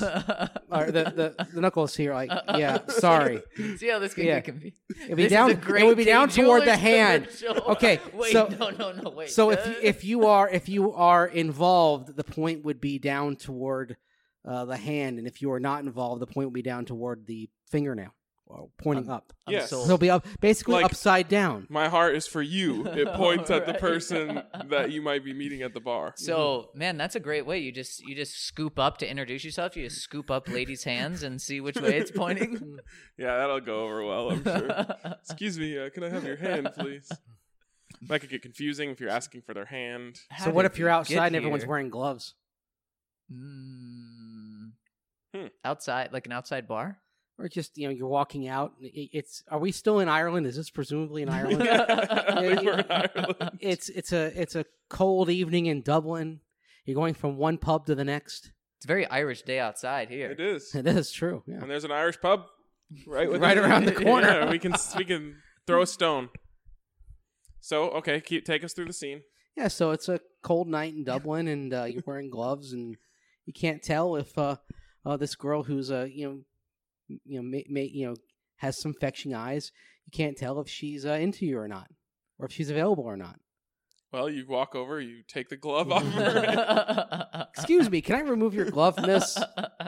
The knuckles here, sorry. See how this can get confused. It would be down toward the hand. Okay, wait, so no, wait. So if you are involved, the point would be down toward the hand, and if you are not involved, the point would be down toward the fingernail. Pointing up. Yes. So it'll be basically upside down. My heart is for you. It points at the person that you might be meeting at the bar. So, man, that's a great way. You just scoop up to introduce yourself. You just scoop up ladies' hands and see which way it's pointing. Yeah, that'll go over well, I'm sure. Excuse me, can I have your hand, please? That could get confusing if you're asking for their hand. So what if you're outside and everyone's wearing gloves? Outside, like an outside bar? Or just, you're walking out. Are we still in Ireland? Is this presumably in Ireland? We're in Ireland. It's a cold evening in Dublin. You're going from one pub to the next. It's a very Irish day outside here. It is. It is true. Yeah. And there's an Irish pub right around the corner. Yeah, we can throw a stone. So, okay, take us through the scene. Yeah, so it's a cold night in Dublin, and you're wearing gloves, and you can't tell if this girl who's has some fetching eyes. You can't tell if she's into you or not, or if she's available or not. Well, you walk over, you take the glove off her. Excuse me, can I remove your glove, miss?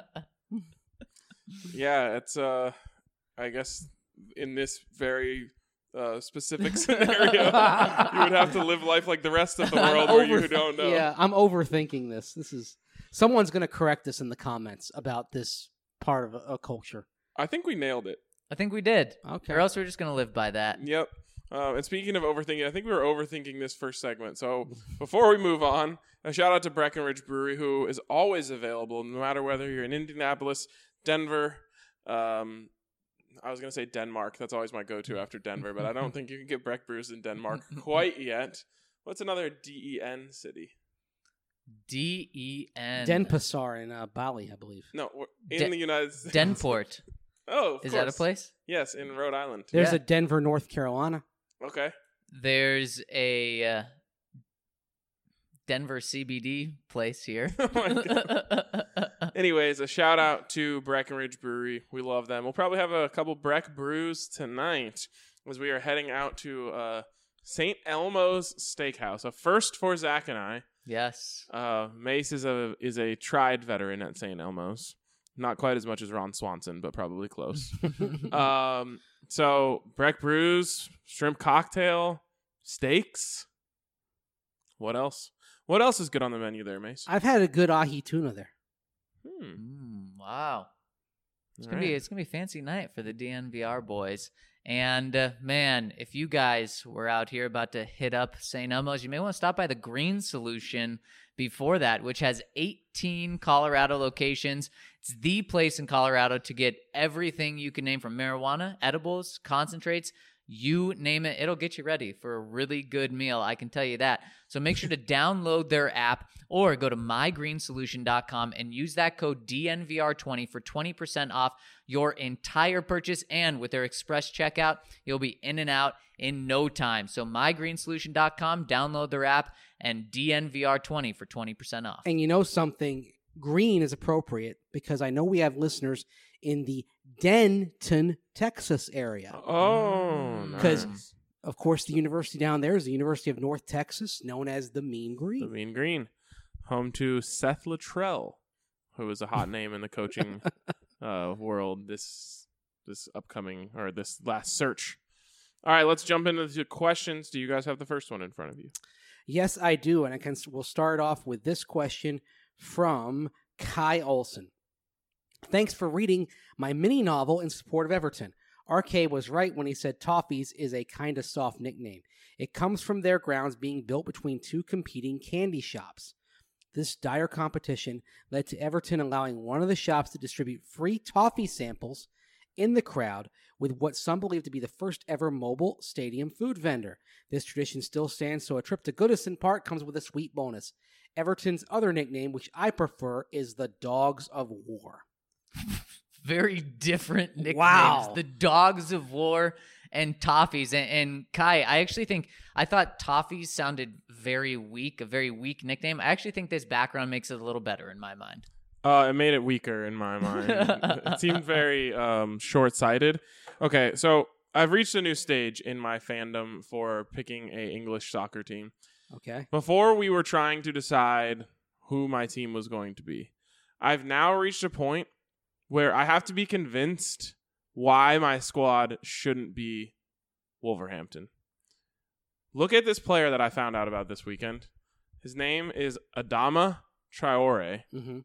Yeah, it's I guess in this very specific scenario, you would have to live life like the rest of the world where you don't know. Yeah, I'm overthinking this. Someone's going to correct us in the comments about this part of a culture. I think we nailed it. I think we did. Okay. Or else we're just going to live by that. Yep. And speaking of overthinking, I think we were overthinking this first segment. So before we move on, a shout out to Breckenridge Brewery, who is always available, no matter whether you're in Indianapolis, Denver. I was going to say Denmark. That's always my go-to after Denver, but I don't think you can get Breck Brews in Denmark quite yet. What's another DEN city? DEN. Denpasar in Bali, I believe. No, in the United States. Denport. Oh, of Is course. that a place? Yes, in Rhode Island. There's Yeah. a Denver, North Carolina. Okay. There's a Denver CBD place here. Oh my God. Anyways, a shout out to Breckenridge Brewery. We love them. We'll probably have a couple Breck brews tonight as we are heading out to St. Elmo's Steakhouse, a first for Zach and I. Yes. Mace is a tried veteran at St. Elmo's. Not quite as much as Ron Swanson, but probably close. So Breck brews, shrimp cocktail, steaks. What else? What else is good on the menu there, Mace? I've had a good ahi tuna there. Wow. It's All gonna right. be a fancy night for the DNVR boys. And man, if you guys were out here about to hit up St. Elmo's, you may want to stop by the Green Solution before that, which has 18 Colorado locations. It's the place in Colorado to get everything you can name, from marijuana, edibles, concentrates, you name it. It'll get you ready for a really good meal, I can tell you that. So make sure to download their app or go to mygreensolution.com and use that code DNVR20 for 20% off your entire purchase. And with their express checkout, you'll be in and out in no time. So mygreensolution.com, download their app, and DNVR20 for 20% off. And you know something? Green is appropriate because I know we have listeners in the Denton, Texas area. Oh, Because, nice. of course, the university down there is the University of North Texas, known as the Mean The Green. Mean Green, home to Seth Luttrell, who is a hot name in the coaching world this upcoming, or this last search. All right, let's jump into the questions. Do you guys have the first one in front of you? Yes, I do. And we'll start off with this question from Kai Olson. Thanks for reading my mini novel in support of Everton. RK was right when he said Toffees is a kind of soft nickname. It comes from their grounds being built between two competing candy shops. This dire competition led to Everton allowing one of the shops to distribute free toffee samples in the crowd with what some believe to be the first ever mobile stadium food vendor. This tradition still stands, so a trip to Goodison Park comes with a sweet bonus. Everton's other nickname, which I prefer, is the Dogs of War. Very different nicknames. Wow. The Dogs of War and Toffees. And Kai, I thought Toffees sounded very weak, a very weak nickname. I actually think this background makes it a little better in my mind. It made it weaker in my mind. It seemed very short-sighted. Okay, so I've reached a new stage in my fandom for picking a English soccer team. Okay. Before we were trying to decide who my team was going to be, I've now reached a point where I have to be convinced why my squad shouldn't be Wolverhampton. Look at this player that I found out about this weekend. His name is Adama Traore. Mm-hmm.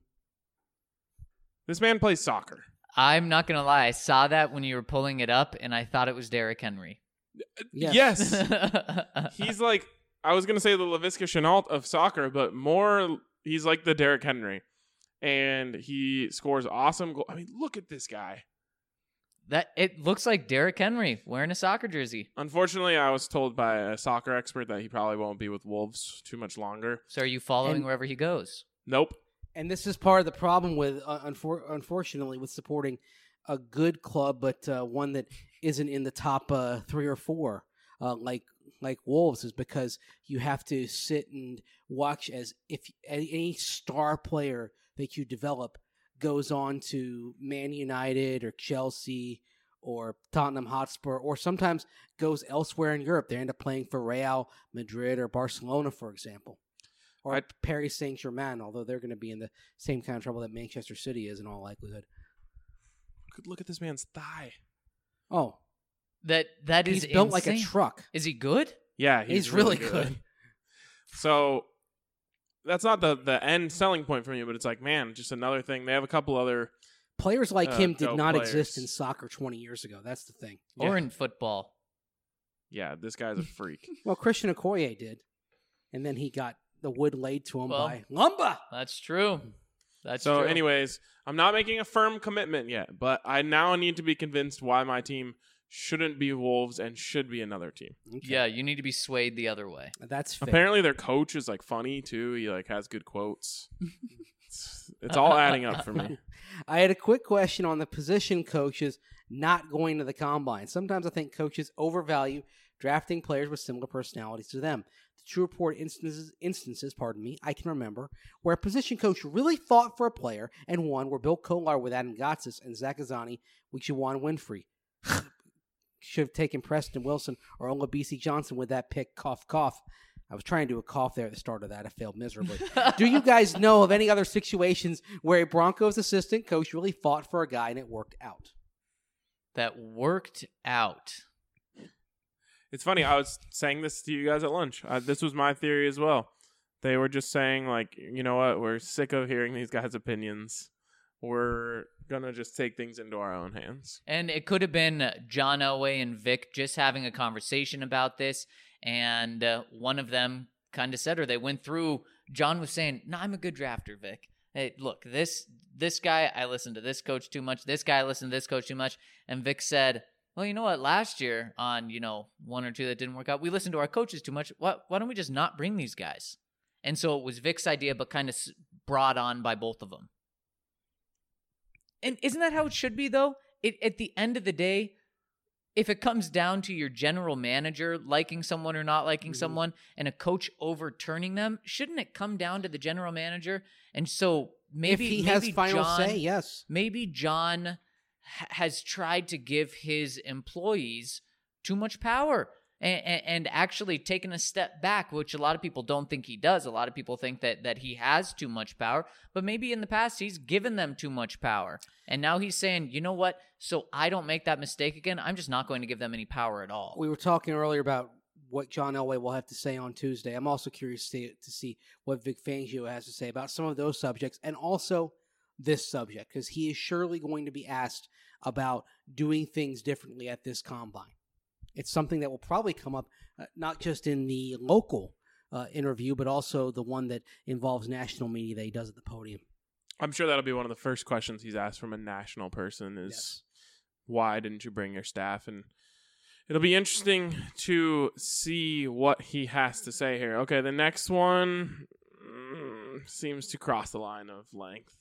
This man plays soccer. I'm not going to lie. I saw that when you were pulling it up, and I thought it was Derrick Henry. Yes. He's like, I was going to say the LaVisca Chenault of soccer, but more, he's like the Derrick Henry. And he scores awesome goals. I mean, look at this guy. It looks like Derrick Henry wearing a soccer jersey. Unfortunately, I was told by a soccer expert that he probably won't be with Wolves too much longer. So are you following And- wherever he goes? Nope. And this is part of the problem with, unfortunately, with supporting a good club, but one that isn't in the top 3 or 4, like like Wolves is because you have to sit and watch as if any star player that you develop goes on to Man United or Chelsea or Tottenham Hotspur, or sometimes goes elsewhere in Europe. They end up playing for Real Madrid or Barcelona, for example. Or Paris Saint-Germain, although they're going to be in the same kind of trouble that Manchester City is in all likelihood. Look at this man's thigh. Oh. That is He's built insane. like a truck. Is he good? Yeah, He's really good. So that's not the end selling point for me, but it's like, man, just another thing. They have a couple other players like him did dope not players. exist in soccer 20 years ago. That's the thing. Or Yeah. in football. Yeah, this guy's a freak. Well, Christian Okoye did. And then he got the wood laid to him Well, by Lumba. That's true. That's So true. anyways, I'm not making a firm commitment yet, but I now need to be convinced why my team shouldn't be Wolves and should be another team. Okay. Yeah, you need to be swayed the other way. That's fair. Apparently their coach is like funny too. He like has good quotes. It's all adding up for me. I had a quick question on the position coaches not going to the combine. Sometimes I think coaches overvalue drafting players with similar personalities to them. The True Report instances, I can remember, where a position coach really fought for a player and won were Bill Kolar with Adam Gotsis and Zach Azani with Juwan Winfrey. Should have taken Preston Wilson or Olabisi Johnson with that pick, cough, cough. I was trying to do a cough there at the start of that. I failed miserably. Do you guys know of any other situations where a Broncos assistant coach really fought for a guy and it worked out? That worked out. It's funny. I was saying this to you guys at lunch. This was my theory as well. They were just saying, like, you know what? We're sick of hearing these guys' opinions. We're going to just take things into our own hands. And it could have been John Elway and Vic just having a conversation about this. And one of them kind of said, or they went through, John was saying, no, I'm a good drafter, Vic. Hey, look, this guy, I listened to this coach too much. This guy, I listened to this coach too much. And Vic said, well, you know what? Last year on, one or two that didn't work out, we listened to our coaches too much. Why don't we just not bring these guys? And so it was Vic's idea, but kind of brought on by both of them. And isn't that how it should be, though? At the end of the day, if it comes down to your general manager liking someone or not liking someone and a coach overturning them, shouldn't it come down to the general manager? And so maybe if he has final John, say, yes. Maybe John has tried to give his employees too much power and actually taken a step back, which a lot of people don't think he does. A lot of people think that he has too much power, but maybe in the past he's given them too much power. And now he's saying, you know what? So I don't make that mistake again. I'm just not going to give them any power at all. We were talking earlier about what John Elway will have to say on Tuesday. I'm also curious to see what Vic Fangio has to say about some of those subjects and also this subject, because he is surely going to be asked about doing things differently at this combine. It's something that will probably come up not just in the local interview, but also the one that involves national media that he does at the podium. I'm sure that'll be one of the first questions he's asked from a national person is, why didn't you bring your staff? And it'll be interesting to see what he has to say here. Okay, the next one seems to cross the line of length.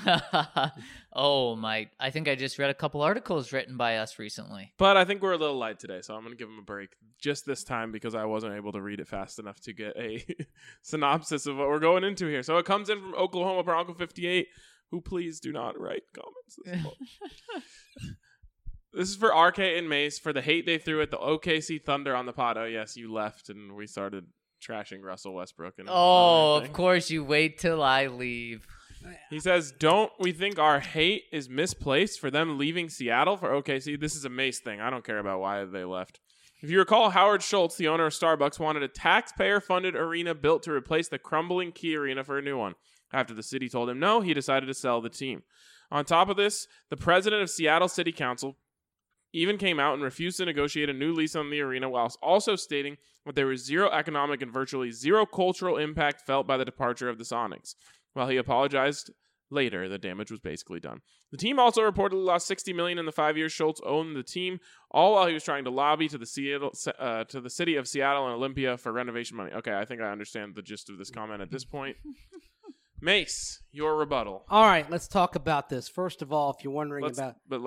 Oh, my. I think I just read a couple articles written by us recently. But I think we're a little light today, so I'm going to give him a break just this time because I wasn't able to read it fast enough to get a synopsis of what we're going into here. So it comes in from Oklahoma Bronco 58, who please do not write comments. This is for RK and Mace for the hate they threw at the OKC Thunder on the pod. Oh, yes, you left and we started trashing Russell Westbrook. And of course, you wait till I leave. He says, don't we think our hate is misplaced for them leaving Seattle for OKC? This is a Mace thing. I don't care about why they left. If you recall, Howard Schultz, the owner of Starbucks, wanted a taxpayer-funded arena built to replace the crumbling Key Arena for a new one. After the city told him no, he decided to sell the team. On top of this, the president of Seattle City Council even came out and refused to negotiate a new lease on the arena, whilst also stating that there was zero economic and virtually zero cultural impact felt by the departure of the Sonics. While he apologized later, the damage was basically done. The team also reportedly lost $60 million in the 5 years Schultz owned the team, all while he was trying to lobby to the city of Seattle and Olympia for renovation money. Okay, I think I understand the gist of this comment at this point. Mace, your rebuttal. All right, let's talk about this. First of all, if you're wondering Let's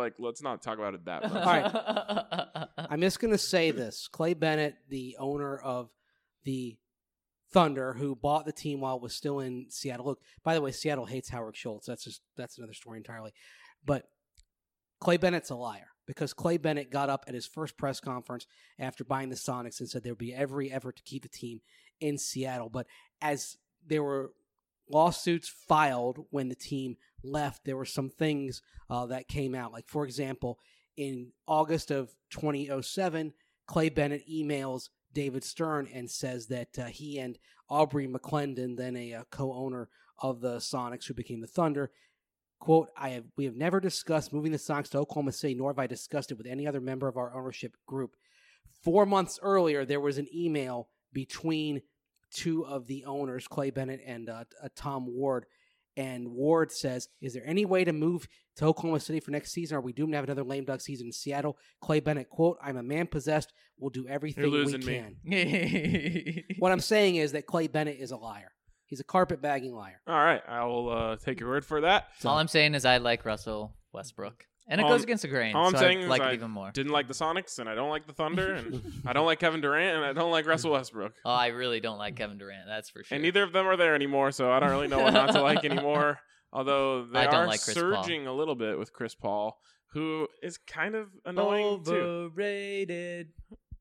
not talk about it that much. All right. I'm just going to say this. Clay Bennett, the owner of the Thunder, who bought the team while it was still in Seattle. Look, by the way, Seattle hates Howard Schultz. That's another story entirely. But Clay Bennett's a liar, because Clay Bennett got up at his first press conference after buying the Sonics and said there would be every effort to keep the team in Seattle. But as there were lawsuits filed when the team left, there were some things that came out. Like, for example, in August of 2007, Clay Bennett emails David Stern and says that he and Aubrey McClendon, then a co-owner of the Sonics who became the Thunder, quote, we have never discussed moving the Sonics to Oklahoma City, nor have I discussed it with any other member of our ownership group. 4 months earlier, there was an email between two of the owners, Clay Bennett and Tom Ward. And Ward says, is there any way to move to Oklahoma City for next season? Or are we doomed to have another lame duck season in Seattle? Clay Bennett, quote, I'm a man possessed. We'll do everything we can. What I'm saying is that Clay Bennett is a liar. He's a carpetbagging liar. All right. I will take your word for that. All I'm saying is I like Russell Westbrook. And it All goes I'm- against the grain, All I'm so saying I is like I it even more. didn't like the Sonics, and I don't like the Thunder, and I don't like Kevin Durant, and I don't like Russell Westbrook. Oh, I really don't like Kevin Durant, that's for sure. And neither of them are there anymore, so I don't really know what not to like anymore. Although they I don't are like Chris surging a little bit with Chris Paul, who is kind of annoying too. Overrated.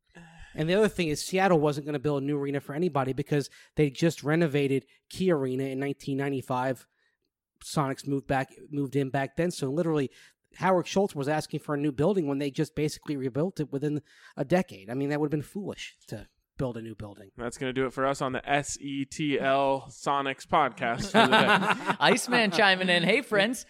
And the other thing is Seattle wasn't going to build a new arena for anybody because they just renovated Key Arena in 1995. Sonics moved in back then. So literally, Howard Schultz was asking for a new building when they just basically rebuilt it within a decade. I mean, that would have been foolish to build a new building. That's going to do it for us on the SETL Sonics podcast for the day. Iceman chiming in. Hey, friends,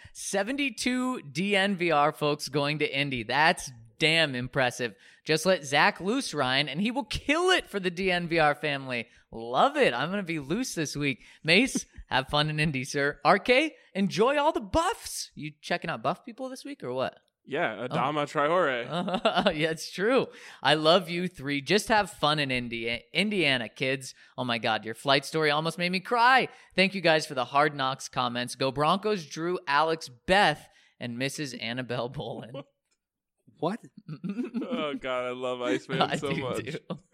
72 DNVR folks going to Indy. That's damn impressive. Just let Zach loose, Ryan, and he will kill it for the DNVR family. Love it. I'm going to be loose this week. Mace, have fun in Indy, sir. RK, enjoy all the buffs. You checking out buff people this week or what? Yeah, Adama Traore. Yeah, it's true. I love you three. Just have fun in Indiana, kids. Oh my God, your flight story almost made me cry. Thank you guys for the Hard Knocks comments. Go Broncos, Drew, Alex, Beth, and Mrs. Annabelle Bolin. What? Oh, God, I love Iceman so much.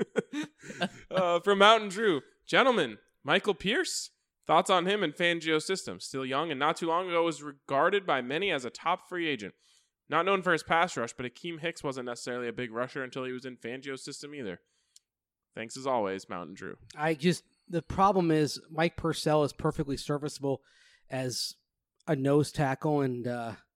Too. From Mountain Drew. Gentlemen, Michael Pierce? Thoughts on him and Fangio system? Still young and not too long ago was regarded by many as a top free agent. Not known for his pass rush, but Akeem Hicks wasn't necessarily a big rusher until he was in Fangio's system either. Thanks as always, Mountain Drew. The problem is Mike Purcell is perfectly serviceable as a nose tackle, and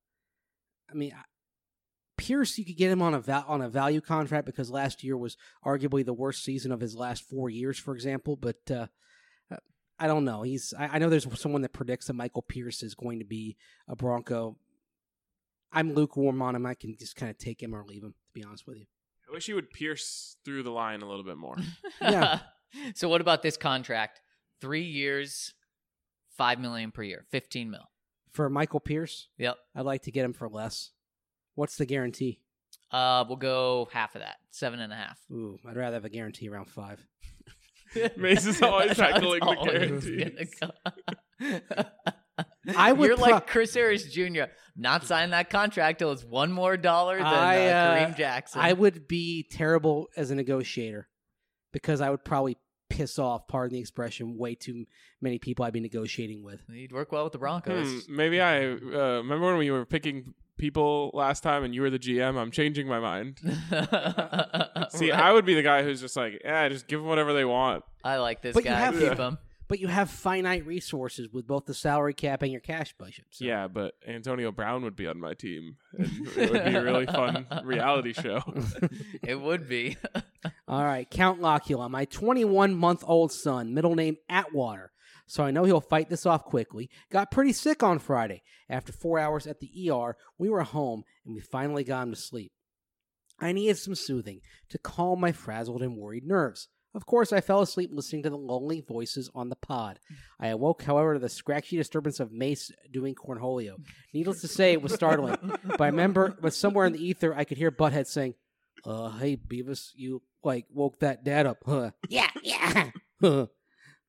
Pierce, you could get him on a value contract because last year was arguably the worst season of his last 4 years, for example. But I don't know. I know there's someone that predicts that Michael Pierce is going to be a Bronco. I'm lukewarm on him. I can just kind of take him or leave him, to be honest with you. I wish he would pierce through the line a little bit more. Yeah. So what about this contract? 3 years, $5 million per year, $15 million. For Michael Pierce, Yep. I'd like to get him for less. What's the guarantee? We'll go half of that, 7.5. Ooh, I'd rather have a guarantee around 5. Mace is always That's how it's tackling the always guarantees. gonna go. I would You're like Chris Harris Jr. Not signing that contract till it's $1 more than Kareem Jackson. I would be terrible as a negotiator because I would probably piss off, pardon the expression, way too many people I'd be negotiating with. You'd work well with the Broncos. Maybe I remember when we were picking people last time and you were the GM. I'm changing my mind. See, I would be the guy who's just like, just give them whatever they want. I like this But you guy. have- Keep him. But you have finite resources with both the salary cap and your cash budget. So. Yeah, but Antonio Brown would be on my team, and it would be a really fun reality show. It would be. All right, Count Locula, my 21-month-old son, middle name Atwater. So I know he'll fight this off quickly. Got pretty sick on Friday. After 4 hours at the ER, we were home, and we finally got him to sleep. I needed some soothing to calm my frazzled and worried nerves. Of course, I fell asleep listening to the lonely voices on the pod. I awoke, however, to the scratchy disturbance of Mace doing cornholio. Needless to say, it was startling. But somewhere in the ether, I could hear Butthead saying, hey, Beavis, you, woke that dad up, huh? Yeah.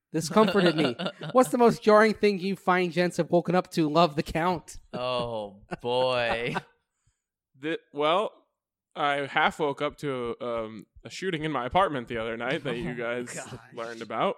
This comforted me. What's the most jarring thing you fine gents have woken up to? Love the count. Oh boy. Well, I half woke up to a shooting in my apartment the other night that you guys learned about.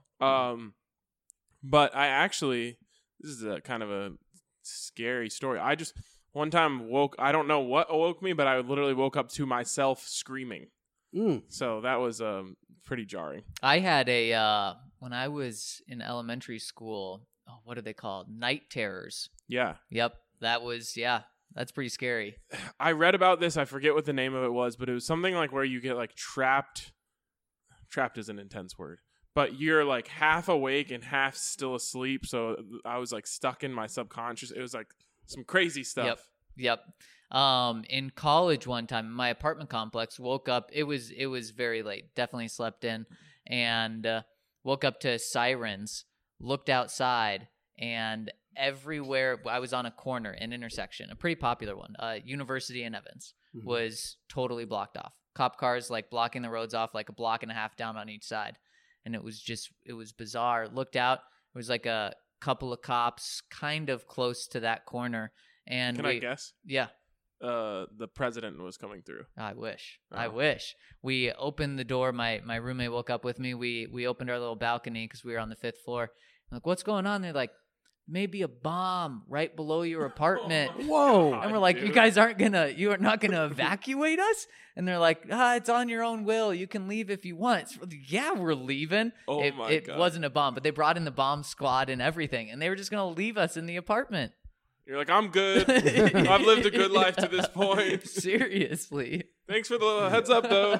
But I actually, this is a kind of a scary story. I just one time I don't know what awoke me, but I literally woke up to myself screaming. So that was pretty jarring. I had when I was in elementary school, what are they called? Night terrors. Yeah. Yep. That's pretty scary. I read about this. I forget what the name of it was, but it was something like where you get like trapped. Trapped is an intense word, but you're like half awake and half still asleep. So I was like stuck in my subconscious. It was like some crazy stuff. Yep. In college one time, in my apartment complex, woke up. It was very late. Definitely slept in, and woke up to sirens. Looked outside, and everywhere I was on a corner, an intersection, a pretty popular one. University and Evans was totally blocked off. Cop cars like blocking the roads off like a block and a half down on each side, and it was bizarre. Looked out. It was like a couple of cops, kind of close to that corner. And Can I guess? Yeah. The president was coming through. I wish. Oh. I wish. We opened the door. My roommate woke up with me. We opened our little balcony because we were on the 5th floor. I'm like, what's going on? They're like, maybe a bomb right below your apartment. Whoa. And we're like, dude. you are not gonna evacuate us? And they're like, it's on your own will. You can leave if you want. So, yeah, we're leaving. Oh it my God. wasn't a bomb, but they brought in the bomb squad and everything, and they were just gonna leave us in the apartment. You're like, I'm good. I've lived a good life to this point. Seriously. Thanks for the heads up, though.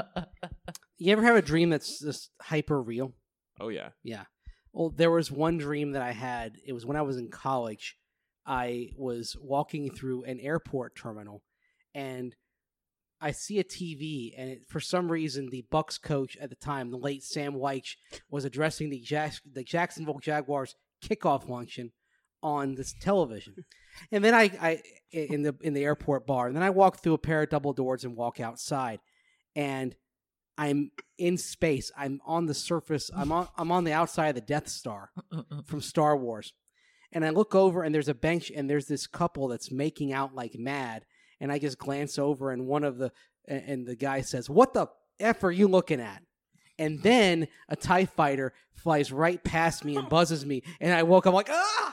You ever have a dream that's just hyper real? Oh, yeah. Yeah. Well, there was one dream that I had. It was when I was in college. I was walking through an airport terminal, and I see a TV, and for some reason, the Bucks coach at the time, the late Sam Wyche, was addressing the Jacksonville Jaguars kickoff luncheon on this television. And then I in the airport bar, and then I walk through a pair of double doors and walk outside, and I'm in space. I'm on the surface. I'm on the outside of the Death Star from Star Wars. And I look over, and there's a bench, and there's this couple that's making out like mad. And I just glance over, and the guy says, "What the F are you looking at?" And then a TIE fighter flies right past me and buzzes me, and I woke up like, ah!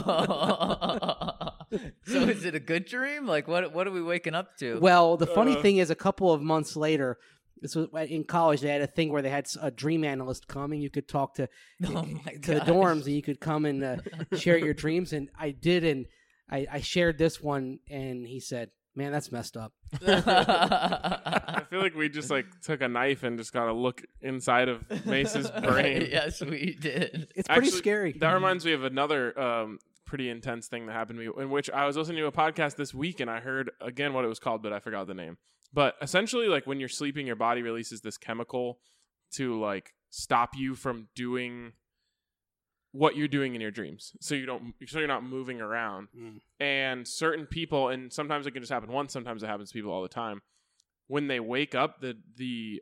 So is it a good dream? Like, what are we waking up to? Well, the funny thing is, a couple of months later, this was in college, they had a thing where they had a dream analyst come, and you could talk to the dorms, and you could come and share your dreams. And I did, and I shared this one, and he said, "Man, that's messed up." I feel like we just like took a knife and just got to look inside of Mace's brain. Yes, we did. It's pretty Actually, scary. That reminds me of another pretty intense thing that happened to me, in which I was listening to a podcast this week, and I heard again what it was called, but I forgot the name. But essentially, like when you're sleeping, your body releases this chemical to like stop you from doing what you're doing in your dreams, so you're not moving around. And certain people, and sometimes it can just happen once, sometimes it happens to people all the time, when they wake up, the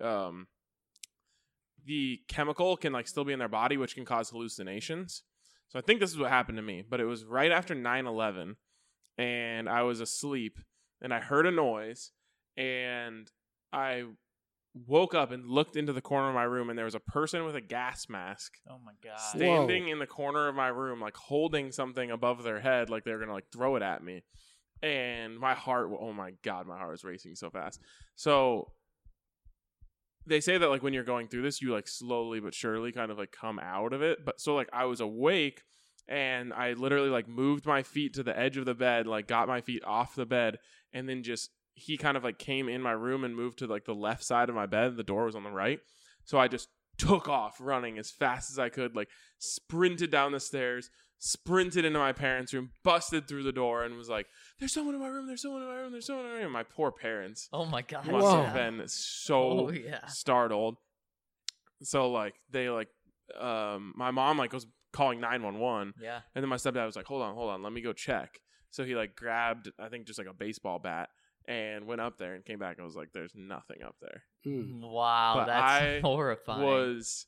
chemical can like still be in their body, which can cause hallucinations. So I think this is what happened to me, but it was right after 9/11, and I was asleep, and I heard a noise, and I woke up and looked into the corner of my room, and there was a person with a gas mask Oh my god. standing in the corner of my room, like holding something above their head, like they were gonna like throw it at me. And my heart, oh my god, my heart was racing so fast. So they say that like when you're going through this, you like slowly but surely kind of like come out of it. But so like I was awake, and I literally like moved my feet to the edge of the bed, like got my feet off the bed, and then just he kind of like came in my room and moved to like the left side of my bed. The door was on the right. So I just took off running as fast as I could, like sprinted down the stairs, sprinted into my parents' room, busted through the door, and was like, "There's someone in my room, there's someone in my room, there's someone in my room." My poor parents Oh my god. must Whoa. have been so startled. So like they like my mom like was calling 911. Yeah. And then my stepdad was like, hold on, let me go check. So he like grabbed, I think, just like a baseball bat and went up there and came back and was like, there's nothing up there. Mm. Wow, But that's I horrifying. Was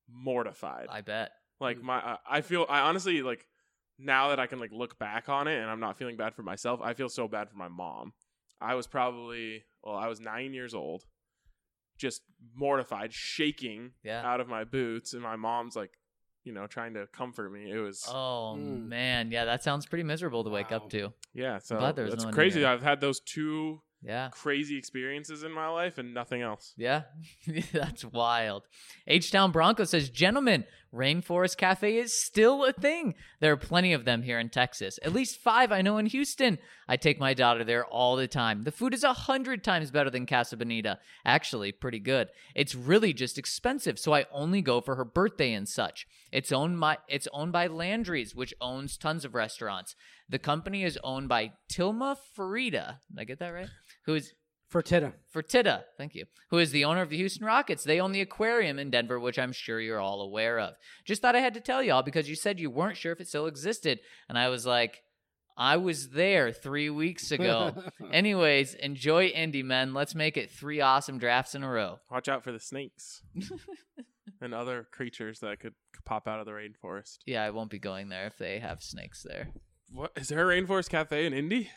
mortified. I bet. Like I honestly like now that I can like look back on it and I'm not feeling bad for myself, I feel so bad for my mom. I was 9 years old, just mortified, shaking Yeah. out of my boots, and my mom's like, trying to comfort me. It was Oh man, yeah, that sounds pretty miserable to wake Wow. up to. yeah, so glad there's it's no one crazy. here. I've had those two Yeah. crazy experiences in my life and nothing else. Yeah, that's wild. H-Town Bronco says, gentlemen, Rainforest Cafe is still a thing. There are plenty of them here in Texas. At least 5 I know in Houston. I take my daughter there all the time. The food is 100 times better than Casa Bonita. Actually, pretty good. It's really just expensive, so I only go for her birthday and such. It's owned by Landry's, which owns tons of restaurants. The company is owned by Tilma Fertitta. Did I get that right? Who is Fertitta, thank you, who is the owner of the Houston Rockets. They own the aquarium in Denver, which I'm sure you're all aware of. Just thought I had to tell y'all because you said you weren't sure if it still existed. And I was like, I was there 3 weeks ago. Anyways, enjoy Indy, men. Let's make it 3 awesome drafts in a row. Watch out for the snakes and other creatures that could pop out of the rainforest. Yeah, I won't be going there if they have snakes there. What is there a Rainforest Cafe in Indy?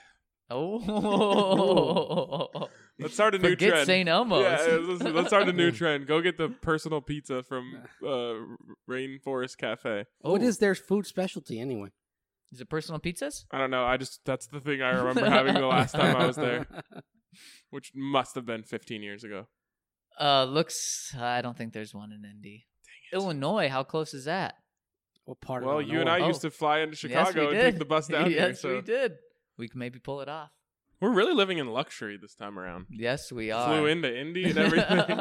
Oh. Let's start a new Forget trend. St. Elmo's. Yeah, let's start a new trend. Go get the personal pizza from Rainforest Cafe. What is their food specialty anyway? Is it personal pizzas? I don't know. That's the thing I remember having the last time I was there, which must have been 15 years ago. I don't think there's one in Indy. Illinois, how close is that? What part Well, of you and I Oh. used to fly into Chicago and did. take the bus down here. Yes, So we did. We can maybe pull it off. we're really living in luxury this time around. Yes, we are. Flew into Indy and everything.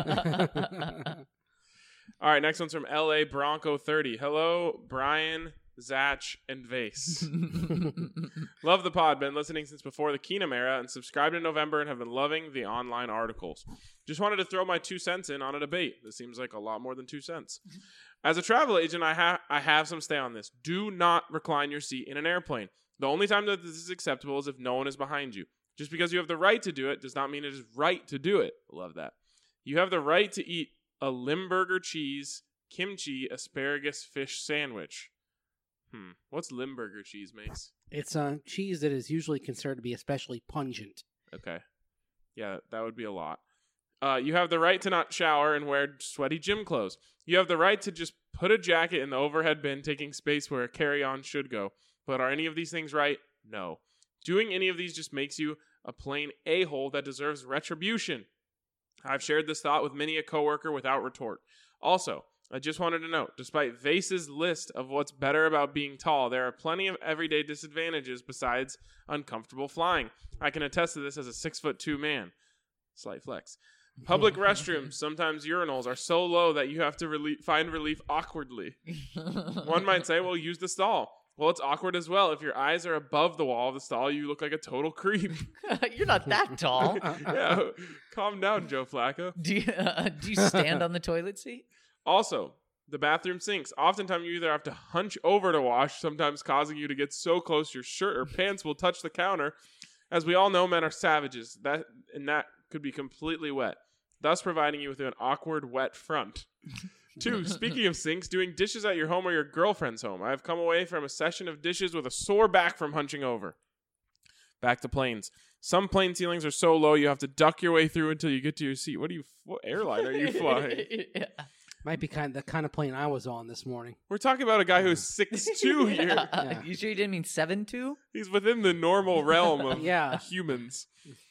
All right, next one's from LA Bronco 30. Hello, Brian, Zach, and Vase. Love the pod. Been listening since before the Keenum era and subscribed in November and have been loving the online articles. Just wanted to throw my 2 cents in on a debate. This seems like a lot more than 2 cents. As a travel agent, I have some stay on this. Do not recline your seat in an airplane. The only time that this is acceptable is if no one is behind you. Just because you have the right to do it does not mean it is right to do it. Love that. You have the right to eat a Limburger cheese, kimchi, asparagus, fish sandwich. What's Limburger cheese, Mace? It's cheese that is usually considered to be especially pungent. Okay. Yeah, that would be a lot. You have the right to not shower and wear sweaty gym clothes. You have the right to just put a jacket in the overhead bin, taking space where a carry-on should go. But are any of these things right? No. Doing any of these just makes you a plain a-hole that deserves retribution. I've shared this thought with many a coworker without retort. Also, I just wanted to note, despite Vase's list of what's better about being tall, there are plenty of everyday disadvantages besides uncomfortable flying. I can attest to this as a 6'2" man. Slight flex. Public restrooms, sometimes urinals, are so low that you have to find relief awkwardly. One might say, well, use the stall. Well, it's awkward as well. If your eyes are above the wall of the stall, you look like a total creep. You're not that tall. Yeah, calm down, Joe Flacco. Do you stand on the toilet seat? Also, the bathroom sinks. Oftentimes, you either have to hunch over to wash, sometimes causing you to get so close your shirt or pants will touch the counter. As we all know, men are savages. That could be completely wet, thus providing you with an awkward, wet front. 2, speaking of sinks, doing dishes at your home or your girlfriend's home. I have come away from a session of dishes with a sore back from hunching over. Back to planes. Some plane ceilings are so low you have to duck your way through until you get to your seat. What airline are you flying? Yeah. Might be the kind of plane I was on this morning. We're talking about a guy who's 6'2" here. Yeah. You sure you didn't mean 7'2"? He's within the normal realm of Yeah. humans.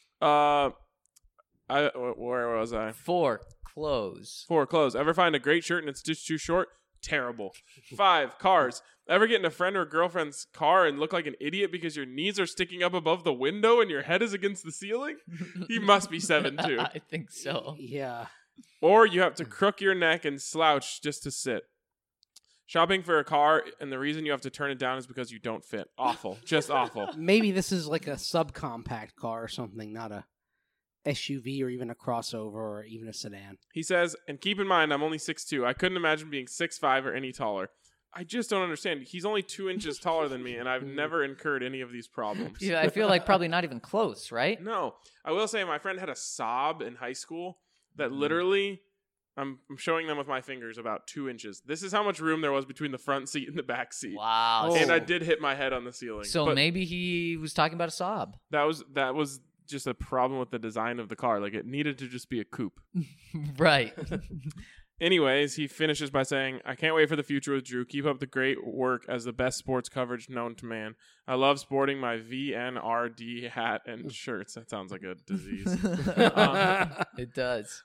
Where was I? 4, clothes. 4, clothes. Ever find a great shirt and it's just too short? Terrible. 5, cars. Ever get in a friend or girlfriend's car and look like an idiot because your knees are sticking up above the window and your head is against the ceiling? He must be 7'2". I think so. Yeah. Or you have to crook your neck and slouch just to sit. Shopping for a car, and the reason you have to turn it down is because you don't fit. Awful. Just awful. Maybe this is like a subcompact car or something, not a SUV or even a crossover or even a sedan. He says, and keep in mind, I'm only 6'2". I couldn't imagine being 6'5" or any taller. I just don't understand. He's only 2 inches taller than me, and I've never incurred any of these problems. Yeah, I feel like probably not even close, right? No. I will say my friend had a Saab in high school that literally, I'm showing them with my fingers about 2 inches. This is how much room there was between the front seat and the back seat. Wow. Oh. And I did hit my head on the ceiling. So but maybe he was talking about a Saab. that was just a problem with the design of the car. Like, it needed to just be a coupe. Right. Anyways, he finishes by saying, I can't wait for the future with Drew. Keep up the great work as the best sports coverage known to man. I love sporting my VNRD hat and shirts. That sounds like a disease. It does.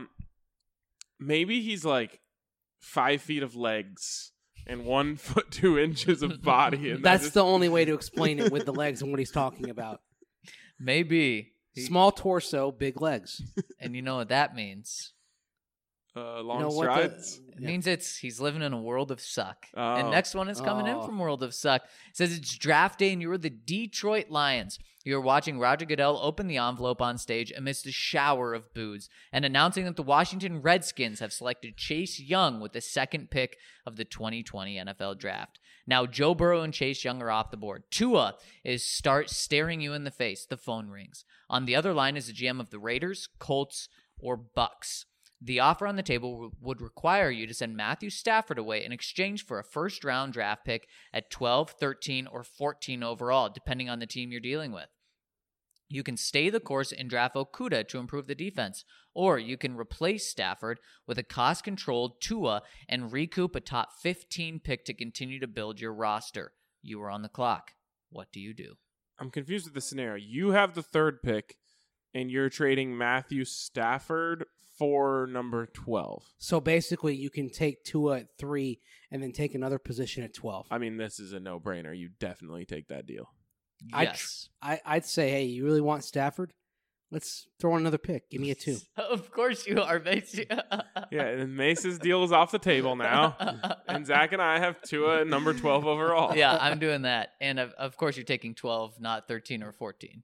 Maybe he's like 5 feet of legs and 1 foot 2 inches of body. And That's the only way to explain it with the legs and what he's talking about. Maybe. Small torso, big legs. And you know what that means? long You know what the- strides. It means he's living in a world of suck. Oh. And next one is coming in Oh. from World of Suck. It says it's draft day and you're the Detroit Lions. You're watching Roger Goodell open the envelope on stage amidst a shower of boos and announcing that the Washington Redskins have selected Chase Young with the second pick of the 2020 NFL Draft. Now, Joe Burrow and Chase Young are off the board. Tua is staring you in the face. The phone rings. On the other line is the GM of the Raiders, Colts, or Bucks. The offer on the table would require you to send Matthew Stafford away in exchange for a first-round draft pick at 12, 13, or 14 overall, depending on the team you're dealing with. You can stay the course and draft Okuda to improve the defense, or you can replace Stafford with a cost-controlled Tua and recoup a top 15 pick to continue to build your roster. You are on the clock. What do you do? I'm confused with the scenario. You have the third pick, and you're trading Matthew Stafford for number 12. So basically, you can take Tua at 3 and then take another position at 12. I mean, this is a no-brainer. You definitely take that deal. Yes. I'd say, hey, you really want Stafford? Let's throw in another pick. Give me a 2. Of course you are, Mace. Yeah, and Mace's deal is off the table now. And Zach and I have Tua at number 12 overall. Yeah, I'm doing that. And of course you're taking 12, not 13 or 14.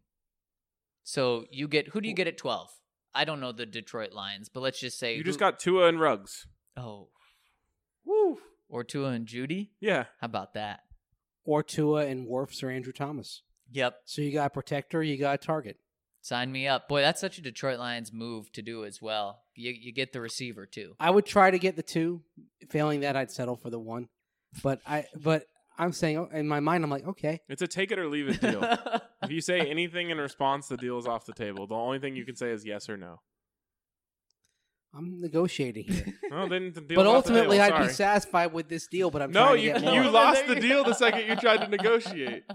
So who do you get at 12? I don't know the Detroit Lions, but let's just say You just got Tua and Ruggs. Oh. Woo. Or Tua and Judy? Yeah. How about that? Or Tua and Wirfs or Andrew Thomas. Yep. So you got a protector, you got a target. Sign me up. Boy, that's such a Detroit Lions move to do as well. You get the receiver too. I would try to get the 2. Failing that, I'd settle for the 1. But I'm saying, in my mind, I'm like, okay. It's a take it or leave it deal. If you say anything in response, the deal is off the table. The only thing you can say is yes or no. I'm negotiating here. Well, then the deal. But ultimately, I'd be satisfied with this deal, but I'm No, trying to you get more. you lost the deal the second you tried to negotiate.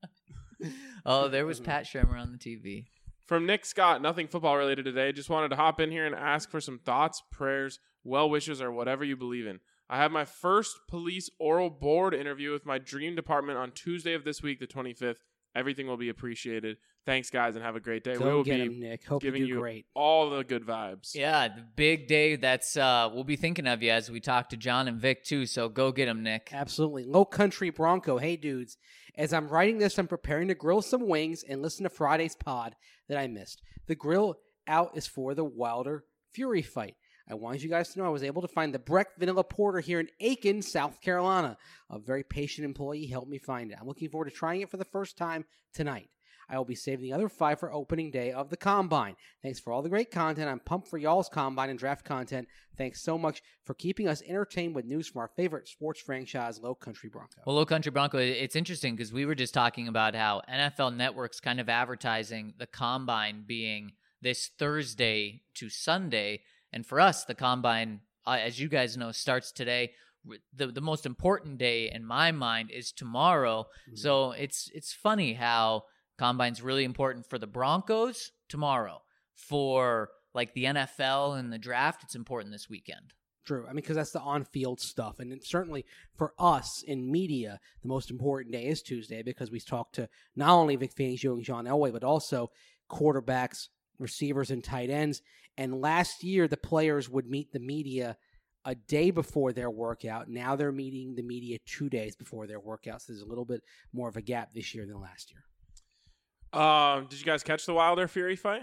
Oh, there was Pat Shurmur on the TV. From Nick Scott, nothing football related today. Just wanted to hop in here and ask for some thoughts, prayers, well wishes, or whatever you believe in. I have my first police oral board interview with my dream department on Tuesday of this week, the 25th. Everything will be appreciated. Thanks, guys, and have a great day. We Go will get be him, Nick. Hope you giving do you great. all the good vibes. Yeah, the big day. That's we'll be thinking of you as we talk to John and Vic too. So go get him, Nick. Absolutely. Low Country Bronco. Hey, dudes. As I'm writing this, I'm preparing to grill some wings and listen to Friday's pod that I missed. The grill out is for the Wilder Fury fight. I wanted you guys to know I was able to find the Breck Vanilla Porter here in Aiken, South Carolina. A very patient employee helped me find it. I'm looking forward to trying it for the first time tonight. I will be saving the other 5 for opening day of the Combine. Thanks for all the great content. I'm pumped for y'all's Combine and draft content. Thanks so much for keeping us entertained with news from our favorite sports franchise, Low Country Bronco. Well, Low Country Bronco, it's interesting because we were just talking about how NFL Network's kind of advertising the Combine being this Thursday to Sunday. And for us, the Combine, as you guys know, starts today. The most important day in my mind is tomorrow. Mm-hmm. So it's funny how Combine's really important for the Broncos tomorrow. For like the NFL and the draft, it's important this weekend. True. I mean, because that's the on-field stuff. And it's certainly for us in media, the most important day is Tuesday because we talk to not only Vic Fangio and John Elway, but also quarterbacks, receivers, and tight ends. And last year, the players would meet the media a day before their workout. Now they're meeting the media 2 days before their workout. So there's a little bit more of a gap this year than last year. Did you guys catch the Wilder Fury fight?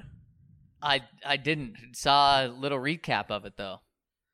I didn't. Saw a little recap of it, though.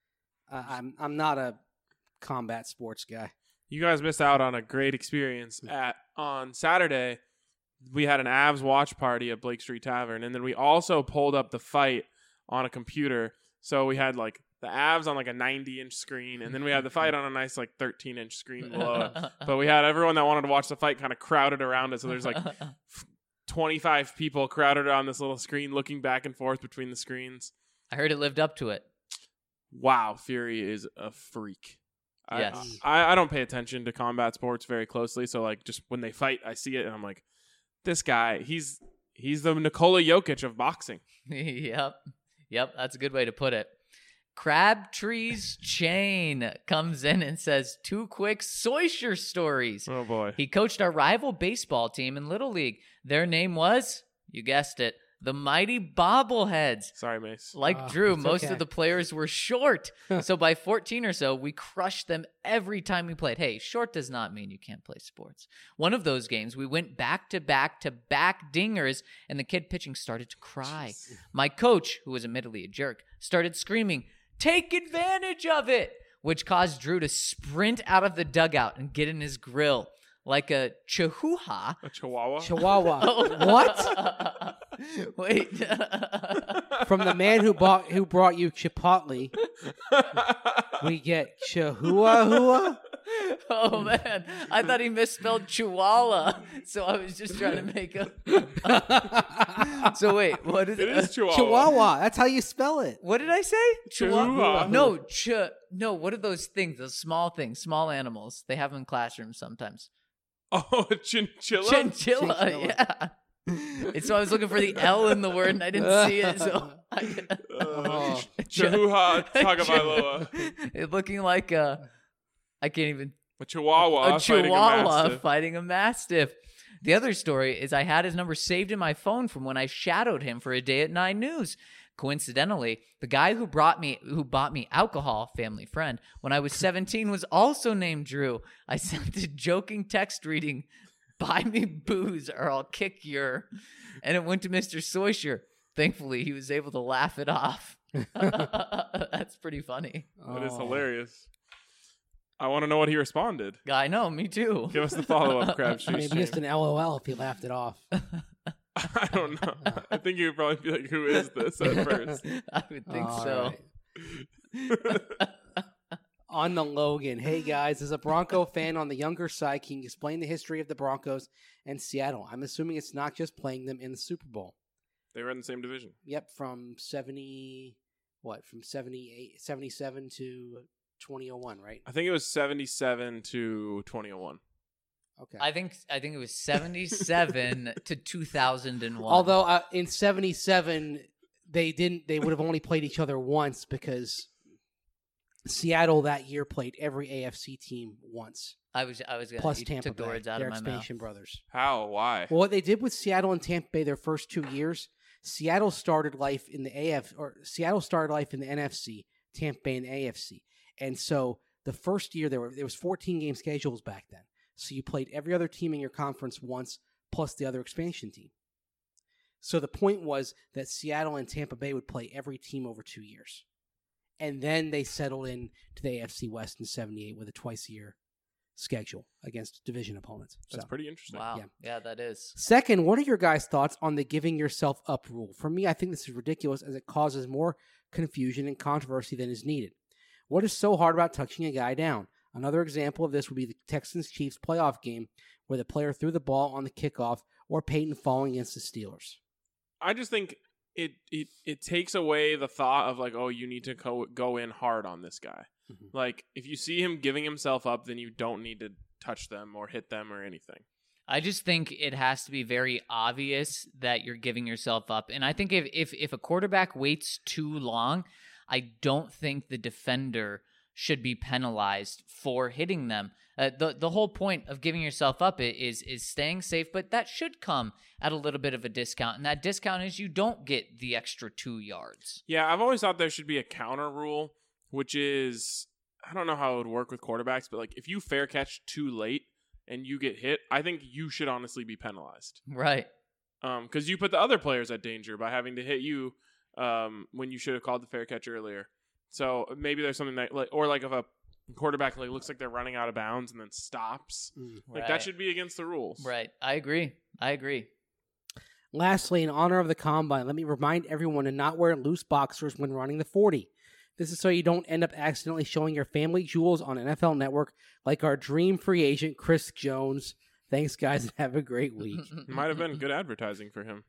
I'm not a combat sports guy. You guys missed out on a great experience. On Saturday, we had an Avs watch party at Blake Street Tavern, and then we also pulled up the fight on a computer. So we had like the Avs on like a 90-inch screen, and then we had the fight on a nice like 13-inch screen below it. But we had everyone that wanted to watch the fight kind of crowded around it. So there's like 25 people crowded on this little screen looking back and forth between the screens. I heard it lived up to it. Wow, Fury is a freak. Yes. I don't pay attention to combat sports very closely, so like just when they fight, I see it and I'm like, this guy, he's the Nikola Jokic of boxing. Yep, that's a good way to put it. Crabtree's Chain comes in and says 2 quick Soysher stories. Oh boy. He coached our rival baseball team in Little League. Their name was, you guessed it, the Mighty Bobbleheads. Sorry, Mace. Like Drew, it's most okay. of the players were short. So by 14 or so, we crushed them every time we played. Hey, short does not mean you can't play sports. One of those games, we went back to back dingers, and the kid pitching started to cry. My coach, who was admittedly a jerk, started screaming, "Take advantage of it," which caused Drew to sprint out of the dugout and get in his grill like a chihuahua. A chihuahua? Chihuahua. What? Wait. From the man who brought you Chipotle, we get Chihuahua. Oh man, I thought he misspelled chihuahua, so I was just trying to make a. So wait, what is It is chihuahua. Chihuahua. That's how you spell it. What did I say? Chihuahua. No, no. What are those things? Those small things, small animals. They have them in classrooms sometimes. Oh, a chinchilla? Chinchilla. Yeah. And so I was looking for the L in the word, and I didn't see it. So Chihuahua Tagovailoa. It looking like I can't even. A chihuahua. A chihuahua Mastiff. fighting a mastiff. The other story is I had his number saved in my phone from when I shadowed him for a day at 9 News. Coincidentally, the guy who bought me alcohol, family friend, when I was 17 was also named Drew. I sent a joking text reading, "Buy me booze or I'll kick your," and it went to Mr. Soysher. Thankfully, he was able to laugh it off. That's pretty funny. That is hilarious. I want to know what he responded. I know, me too. Give us the follow-up, Crabtree. Maybe just an LOL if he laughed it off. I don't know. I think he would probably be like, who is this at first? I would think All so. right. On the Logan. Hey, guys. As a Bronco fan on the younger side, can you explain the history of the Broncos and Seattle? I'm assuming it's not just playing them in the Super Bowl. They were in the same division. Yep, from 77 to 2001, right? I think it was 77 to 2001. Okay. I think it was 77 to 2001. Although in 77 they would have only played each other once because Seattle that year played every AFC team once. I was gonna Plus you Tampa took the Bay, words out their of my mouth. expansion brothers. How? Why? Well, what they did with Seattle and Tampa Bay their first 2 years, Seattle started life in the NFC, Tampa Bay in the AFC. And so the first year there was 14 game schedules back then. So you played every other team in your conference once plus the other expansion team. So the point was that Seattle and Tampa Bay would play every team over 2 years. And then they settled in to the AFC West in 78 with a twice-a-year schedule against division opponents. That's pretty interesting. Wow. Yeah. Yeah, that is. Second, what are your guys' thoughts on the giving yourself up rule? For me, I think this is ridiculous as it causes more confusion and controversy than is needed. What is so hard about touching a guy down? Another example of this would be the Texans-Chiefs playoff game where the player threw the ball on the kickoff or Peyton falling against the Steelers. I just think it takes away the thought of like, oh, you need to go in hard on this guy. Mm-hmm. Like, if you see him giving himself up, then you don't need to touch them or hit them or anything. I just think it has to be very obvious that you're giving yourself up. And I think if a quarterback waits too long, I don't think the defender should be penalized for hitting them. The whole point of giving yourself up is staying safe, but that should come at a little bit of a discount. And that discount is you don't get the extra 2 yards. Yeah, I've always thought there should be a counter rule, which is, I don't know how it would work with quarterbacks, but like if you fair catch too late and you get hit, I think you should honestly be penalized. Right. Because you put the other players at danger by having to hit you when you should have called the fair catch earlier. So maybe there's something that, like, or like if a quarterback like looks like they're running out of bounds and then stops, like that should be against the rules. Right. I agree. Lastly, in honor of the Combine, let me remind everyone to not wear loose boxers when running the 40. This is so you don't end up accidentally showing your family jewels on NFL Network like our dream free agent, Chris Jones. Thanks, guys, and have a great week. Might have been good advertising for him.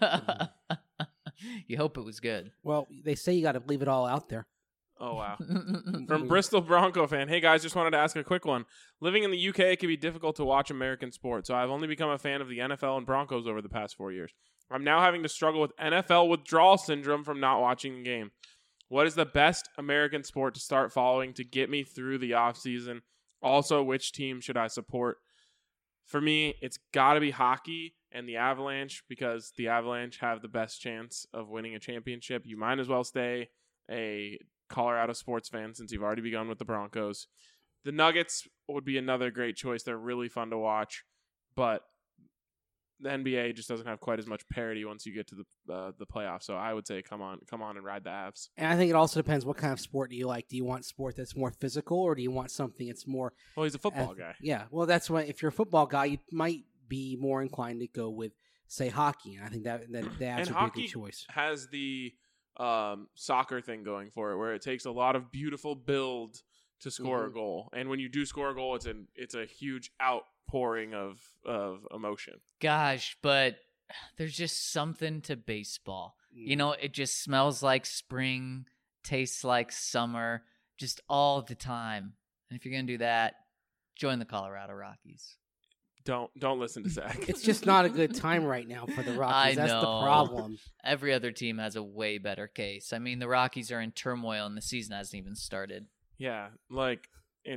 You hope it was good. Well, they say you got to leave it all out there. Oh, wow. From Bristol Bronco fan. Hey, guys, just wanted to ask a quick one. Living in the UK, it can be difficult to watch American sports, so I've only become a fan of the NFL and Broncos over the past 4 years. I'm now having to struggle with NFL withdrawal syndrome from not watching the game. What is the best American sport to start following to get me through the offseason? Also, which team should I support? For me, it's got to be hockey and the Avalanche, because the Avalanche have the best chance of winning a championship. You might as well stay a Colorado sports fan since you've already begun with the Broncos. The Nuggets would be another great choice. They're really fun to watch, but the NBA just doesn't have quite as much parity once you get to the playoffs. So I would say come on and ride the Avs. And I think it also depends what kind of sport do you like. Do you want sport that's more physical, or do you want something that's more... Well, he's a football guy. Yeah, well, that's why if you're a football guy, you might be more inclined to go with, say, hockey. And I think that the Avs would be a good choice. Has the soccer thing going for it, where it takes a lot of beautiful build to score a goal, and when you do score a goal, it's a huge outpouring of emotion. Gosh, but there's just something to baseball. You know, it just smells like spring, tastes like summer, just all the time. And if you're gonna do that, join the Colorado Rockies. Don't listen to Zach. It's just not a good time right now for the Rockies. That's the problem. Every other team has a way better case. I mean, the Rockies are in turmoil and the season hasn't even started. Yeah, like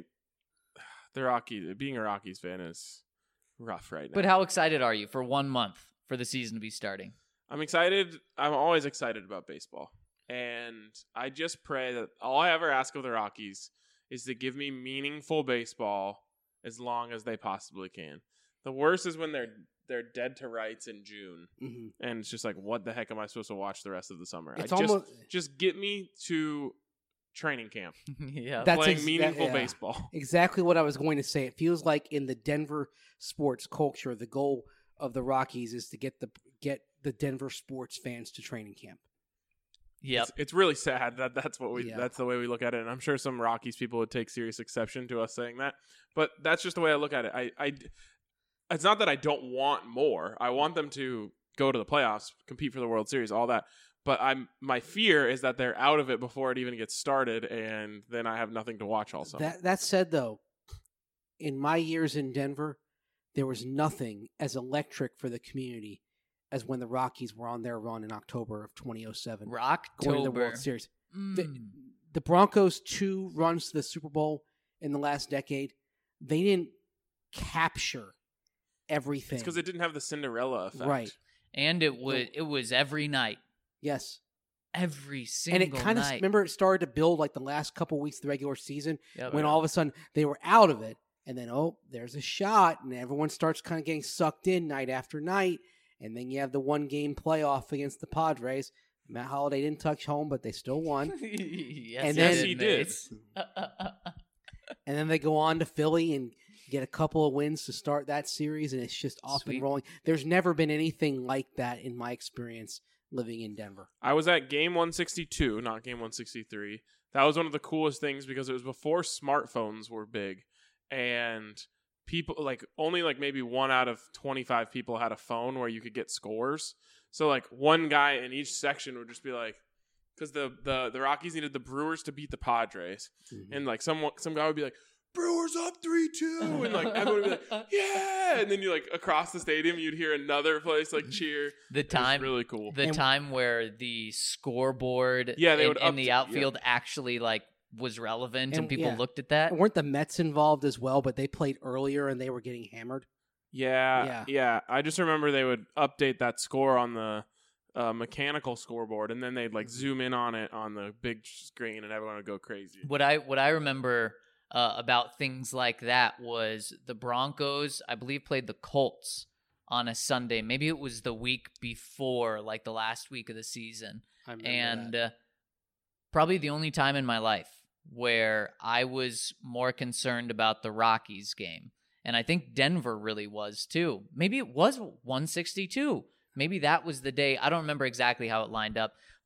the Rockies. Being a Rockies fan is rough right now. But how excited are you for 1 month for the season to be starting? I'm excited. I'm always excited about baseball, and I just pray that all I ever ask of the Rockies is to give me meaningful baseball as long as they possibly can. The worst is when they're dead to rights in June, and it's just like, what the heck am I supposed to watch the rest of the summer? It's just get me to training camp. Yeah, That's playing meaningful baseball. Exactly what I was going to say. It feels like in the Denver sports culture, the goal of the Rockies is to get the Denver sports fans to training camp. Yep. It's really sad that's the way we look at it, and I'm sure some Rockies people would take serious exception to us saying that, but that's just the way I look at it. It's not that I don't want more. I want them to go to the playoffs, compete for the World Series, all that. But my fear is that they're out of it before it even gets started, and then I have nothing to watch all summer. That said, though, in my years in Denver, there was nothing as electric for the community as when the Rockies were on their run in October of 2007. Going to the World Series. The Broncos' 2 runs to the Super Bowl in the last decade, they didn't capture everything. It's because it didn't have the Cinderella effect. Right. And it was every night. Yes. Every single night. And it kind of, remember, it started to build like the last couple weeks of the regular season when all of a sudden they were out of it. And then, there's a shot. And everyone starts kind of getting sucked in night after night. And then you have the 1-game playoff against the Padres. Matt Holliday didn't touch home, but they still won. Yes, he did. And then they go on to Philly and get a couple of wins to start that series, and it's just off and rolling. There's never been anything like that in my experience living in Denver. I was at game 162, not game 163. That was one of the coolest things because it was before smartphones were big, and people only maybe 1 out of 25 people had a phone where you could get scores. So one guy in each section would just be like, because the Rockies needed the Brewers to beat the Padres, and some guy would be like, Brewers up 3-2, and everyone would be like, yeah, and then you across the stadium you'd hear another place cheer. The time, really cool. The time where the scoreboard in the outfield actually was relevant and people looked at that. And weren't the Mets involved as well? But they played earlier and they were getting hammered. Yeah. I just remember they would update that score on the mechanical scoreboard, and then they'd zoom in on it on the big screen, and everyone would go crazy. What I remember about things like that was the Broncos, I believe, played the Colts on a Sunday. Maybe it was the week before, the last week of the season. I remember that. Probably the only time in my life where I was more concerned about the Rockies game. And I think Denver really was too. Maybe it was 162. Maybe that was the day. I don't remember exactly how it lined up, but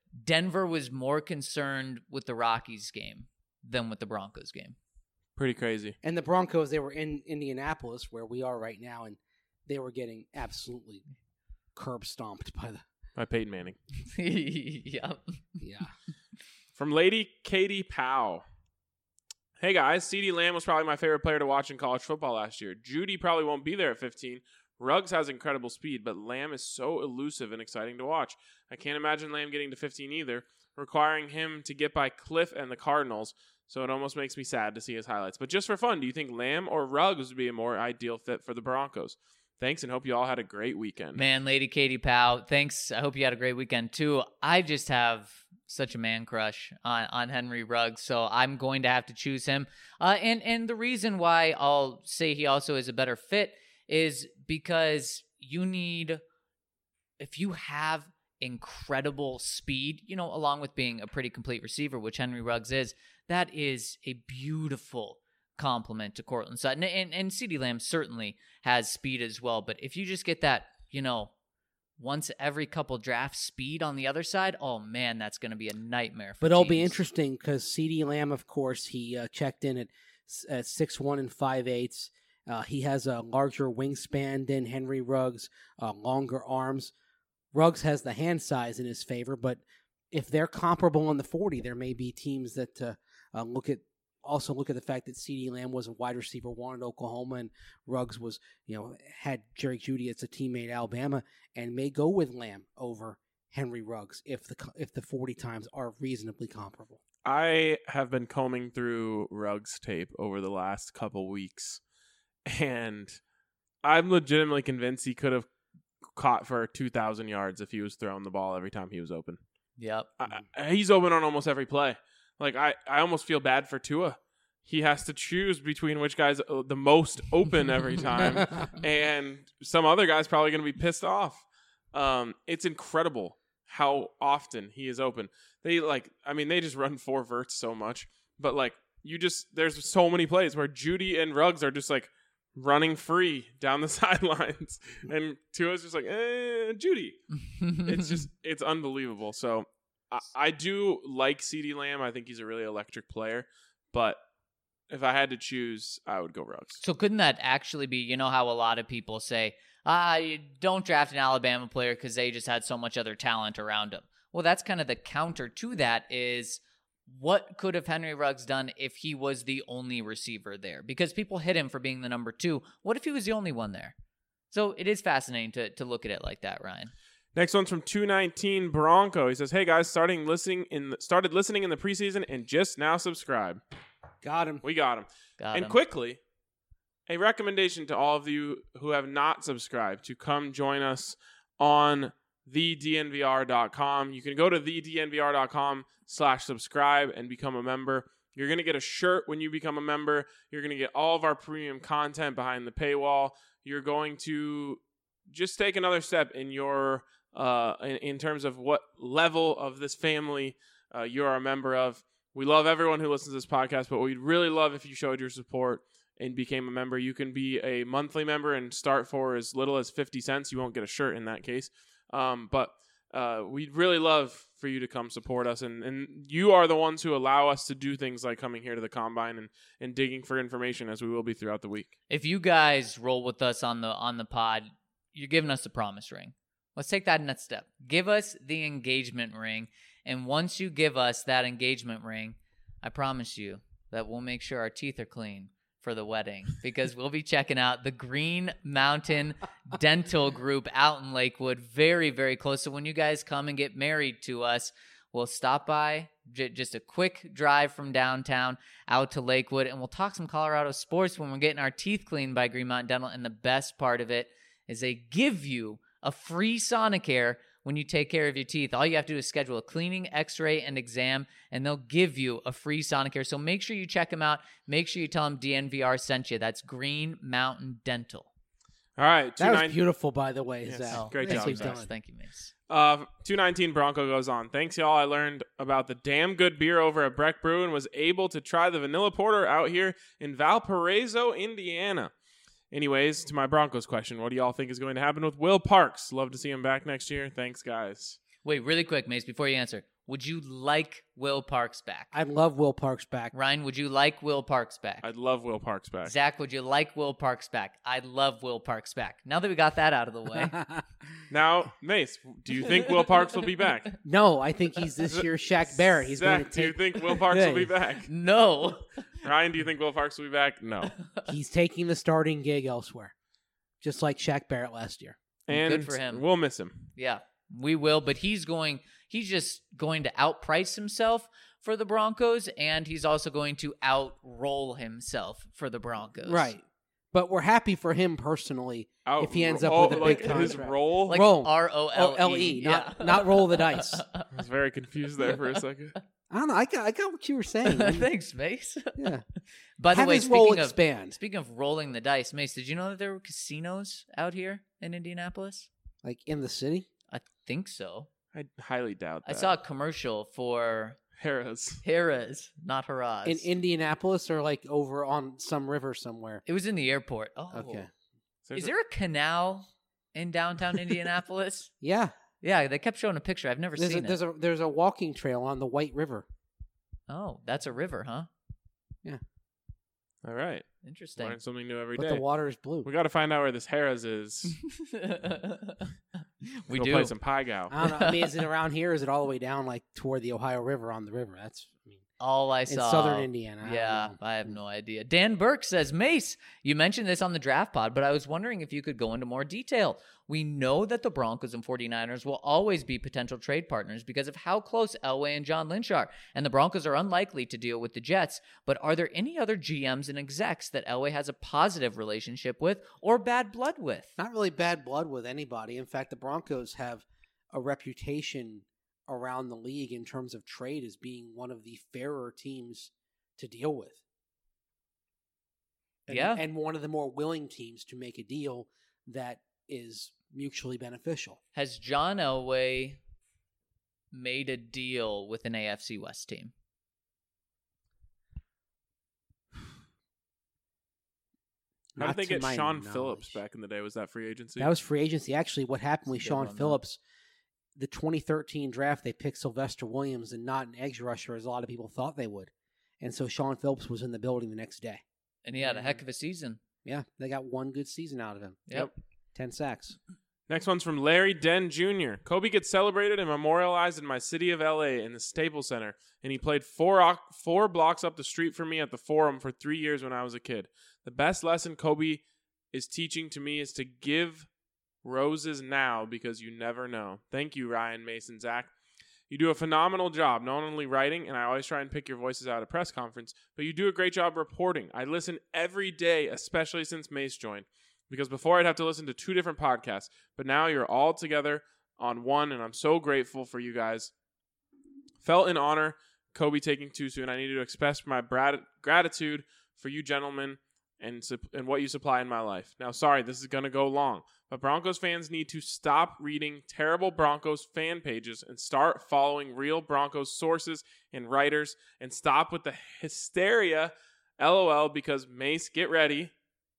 Denver was more concerned with the Rockies game than with the Broncos game. Pretty crazy. And the Broncos, they were in Indianapolis, where we are right now, and they were getting absolutely curb stomped By Peyton Manning. Yep. Yeah. From Lady Katie Powell. Hey guys, CeeDee Lamb was probably my favorite player to watch in college football last year. Judy probably won't be there at 15. Ruggs has incredible speed, but Lamb is so elusive and exciting to watch. I can't imagine Lamb getting to 15 either, requiring him to get by Cliff and the Cardinals, so it almost makes me sad to see his highlights. But just for fun, do you think Lamb or Ruggs would be a more ideal fit for the Broncos? Thanks, and hope you all had a great weekend. Man, Lady Katie Powell, thanks. I hope you had a great weekend too. I just have such a man crush on Henry Ruggs, so I'm going to have to choose him. And the reason why I'll say he also is a better fit is because if you have incredible speed, along with being a pretty complete receiver, which Henry Ruggs is, that is a beautiful compliment to Courtland Sutton. And CeeDee Lamb certainly has speed as well. But if you just get that, once every couple draft speed on the other side, oh man, that's going to be a nightmare for But it'll teams. be interesting because CeeDee Lamb, of course, he checked in at 6'1" and 5/8". He has a larger wingspan than Henry Ruggs, longer arms. Ruggs has the hand size in his favor, but if they're comparable on the 40, there may be teams that look at the fact that CeeDee Lamb was a wide receiver one at Oklahoma, and Ruggs was, had Jerry Jeudy as a teammate at Alabama, and may go with Lamb over Henry Ruggs if the 40 times are reasonably comparable. I have been combing through Ruggs tape over the last couple weeks, and I'm legitimately convinced he could have caught for 2,000 yards if he was throwing the ball every time he was open. Yep. He's open on almost every play. Like, I almost feel bad for Tua. He has to choose between which guy's the most open every time, and some other guy's probably going to be pissed off. It's incredible how often he is open. They just run 4 verts so much, but there's so many plays where Jeudy and Ruggs are just running free down the sidelines, and Tua's just Jeudy. It's unbelievable. So I do like CeeDee Lamb. I think he's a really electric player, but if I had to choose, I would go Ruggs. So couldn't that actually be, how a lot of people say, you don't draft an Alabama player because they just had so much other talent around him. Well, that's kind of the counter to that is, what could have Henry Ruggs done if he was the only receiver there? Because people hit him for being the number 2. What if he was the only one there? So it is fascinating to look at it like that, Ryan. Next one's from 219 Bronco. He says, "Hey guys, started listening in the preseason and just now subscribe." Got him. We got him. Quickly, a recommendation to all of you who have not subscribed to come join us on thednvr.com. You can go to thednvr.com/subscribe and become a member. You're going to get a shirt when you become a member. You're going to get all of our premium content behind the paywall. You're going to just take another step in your in terms of what level of this family you're a member of. We love everyone who listens to this podcast, but we'd really love if you showed your support and became a member. You can be a monthly member and start for as little as 50 cents. You won't get a shirt in that case. But we'd really love for you to come support us. And you are the ones who allow us to do things like coming here to the Combine and digging for information, as we will be throughout the week. If you guys roll with us on the pod, you're giving us the promise ring. Let's take that next step. Give us the engagement ring. And once you give us that engagement ring, I promise you that we'll make sure our teeth are clean for the wedding, because we'll be checking out the Green Mountain Dental Group out in Lakewood, very, very close. So when you guys come and get married to us, we'll stop by, just a quick drive from downtown out to Lakewood, and we'll talk some Colorado sports when we're getting our teeth cleaned by Green Mountain Dental. And the best part of it is they give you a free Sonicare when you take care of your teeth. All you have to do is schedule a cleaning, x-ray, and exam, and they'll give you a free Sonicare. So make sure you check them out. Make sure you tell them DNVR sent you. That's Green Mountain Dental. All right. That was beautiful, by the way, Yes. Zach. Great Thank job, you, Zach. Mace. Thank you, Mace. 219 Bronco goes on. "Thanks, y'all. I learned about the damn good beer over at Breck Brew and was able to try the vanilla porter out here in Valparaiso, Indiana. Anyways, to my Broncos question, what do y'all think is going to happen with Will Parks? Love to see him back next year. Thanks, guys." Wait, really quick, Mace, before you answer. Would you like Will Parks back? I love Will Parks back. Ryan, would you like Will Parks back? I'd love Will Parks back. Zach, would you like Will Parks back? I'd love Will Parks back. Now that we got that out of the way. Now, Mace, do you think Will Parks will be back? No, I think he's this year's Shaq Barrett. He's going Zach, to do you take. think Will Parks will be back? No. Ryan, do you think Will Parks will be back? No. He's taking the starting gig elsewhere, just like Shaq Barrett last year. And Good for him. We'll miss him. Yeah, we will, but he's just going to outprice himself for the Broncos, and he's also going to outroll himself for the Broncos. Right. But we're happy for him personally if he ends up with a like big his contract. role. Like Roll. ROLE. not roll the dice. I was very confused there for a second. I don't know. I got what you were saying. Thanks, Mace. Yeah. By the Have way, his role speaking expand. of rolling the dice, Mace, did you know that there were casinos out here in Indianapolis? Like in the city? I think so. I highly doubt that. I saw a commercial for Harrah's. not Harrah's. In Indianapolis or like over on some river somewhere? It was in the airport. Oh, Okay. Is there a canal in downtown Indianapolis? Yeah. Yeah, they kept showing a picture. I've never seen it. There's a walking trail on the White River. Oh, that's a river, huh? All right. Interesting. Learn something new every But day. the water is blue. We got to find out where this Harrah's is. We Go do. play some pie gow. I don't know. I mean, is it around here? Or is it all the way down like toward the Ohio River on the river? All I in saw. southern Indiana. I don't Yeah, know. I have no idea. Dan Burke says, Mace, you mentioned this on the draft pod, but I was wondering if you could go into more detail. We know that the Broncos and 49ers will always be potential trade partners because of how close Elway and John Lynch are, and the Broncos are unlikely to deal with the Jets. But are there any other GMs and execs that Elway has a positive relationship with or bad blood with? Not really bad blood with anybody. In fact, the Broncos have a reputation around the league in terms of trade as being one of the fairer teams to deal with. And one of the more willing teams to make a deal that is mutually beneficial. Has John Elway made a deal with an AFC West team? How Not did they to get my Sean knowledge. Phillips back in the day? Was that free agency? That was free agency. Actually, what happened with That's a good Sean one, though. Phillips, the 2013 draft, they picked Sylvester Williams and not an edge rusher as a lot of people thought they would. And so Sean Phillips was in the building the next day. And he had a heck of a season. Yeah, they got one good season out of him. Yep. 10 sacks. Next one's from Larry Den Jr. Kobe gets celebrated and memorialized in my city of LA in the Staples Center, and he played four blocks up the street from me at the Forum for 3 years when I was a kid. The best lesson Kobe is teaching to me is to give roses now because you never know. Thank you, Ryan, Mason, Zach. You do a phenomenal job, not only writing, and I always try and pick your voices out at press conference, but you do a great job reporting. I listen every day, especially since Mace joined, because before I'd have to listen to 2 different podcasts, but now you're all together on one, and I'm so grateful for you guys. Felt in honor, Kobe taking too soon. I needed to express my gratitude for you gentlemen and what you supply in my life. Now, sorry, this is going to go long, but Broncos fans need to stop reading terrible Broncos fan pages and start following real Broncos sources and writers and stop with the hysteria, LOL, because Mace, get ready.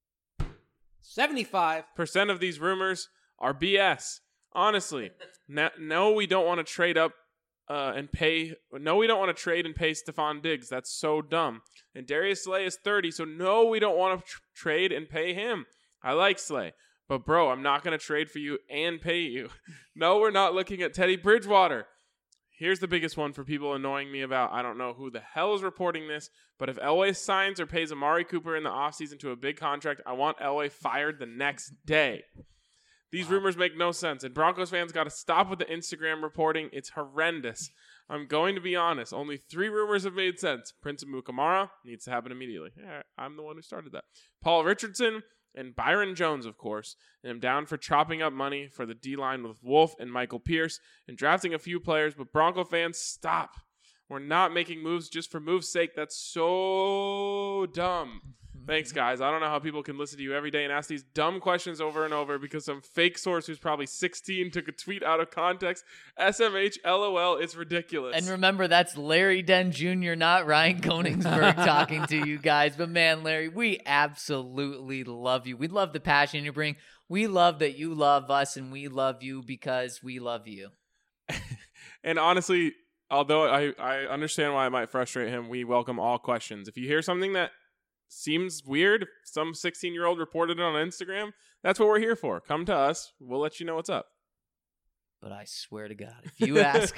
75. % of these rumors are BS. Honestly, no, we don't want to trade up and pay. No, we don't want to trade and pay Stephon Diggs. That's so dumb. And Darius Slay is 30, so no, we don't want to trade and pay him. I like Slay, but bro, I'm not going to trade for you and pay you. No, we're not looking at Teddy Bridgewater. Here's the biggest one for people annoying me about. I don't know who the hell is reporting this, but if Elway signs or pays Amari Cooper in the offseason to a big contract, I want Elway fired the next day. These rumors make no sense, and Broncos fans got to stop with the Instagram reporting. It's horrendous. I'm going to be honest. Only 3 rumors have made sense. Prince Amukamara needs to happen immediately. Yeah, I'm the one who started that. Paul Richardson and Byron Jones, of course. And I'm down for chopping up money for the D-line with Wolf and Michael Pierce and drafting a few players. But Bronco fans, stop. We're not making moves just for moves' sake. That's so dumb. Thanks, guys. I don't know how people can listen to you every day and ask these dumb questions over and over because some fake source who's probably 16 took a tweet out of context. SMH, LOL, it's ridiculous. And remember, that's Larry Den Jr., not Ryan Koenigsberg talking to you guys. But man, Larry, we absolutely love you. We love the passion you bring. We love that you love us, and we love you because we love you. And honestly, although I understand why it might frustrate him, we welcome all questions. If you hear something that seems weird, some 16-year-old reported it on Instagram, that's what we're here for. Come to us. We'll let you know what's up. But I swear to God, if you ask,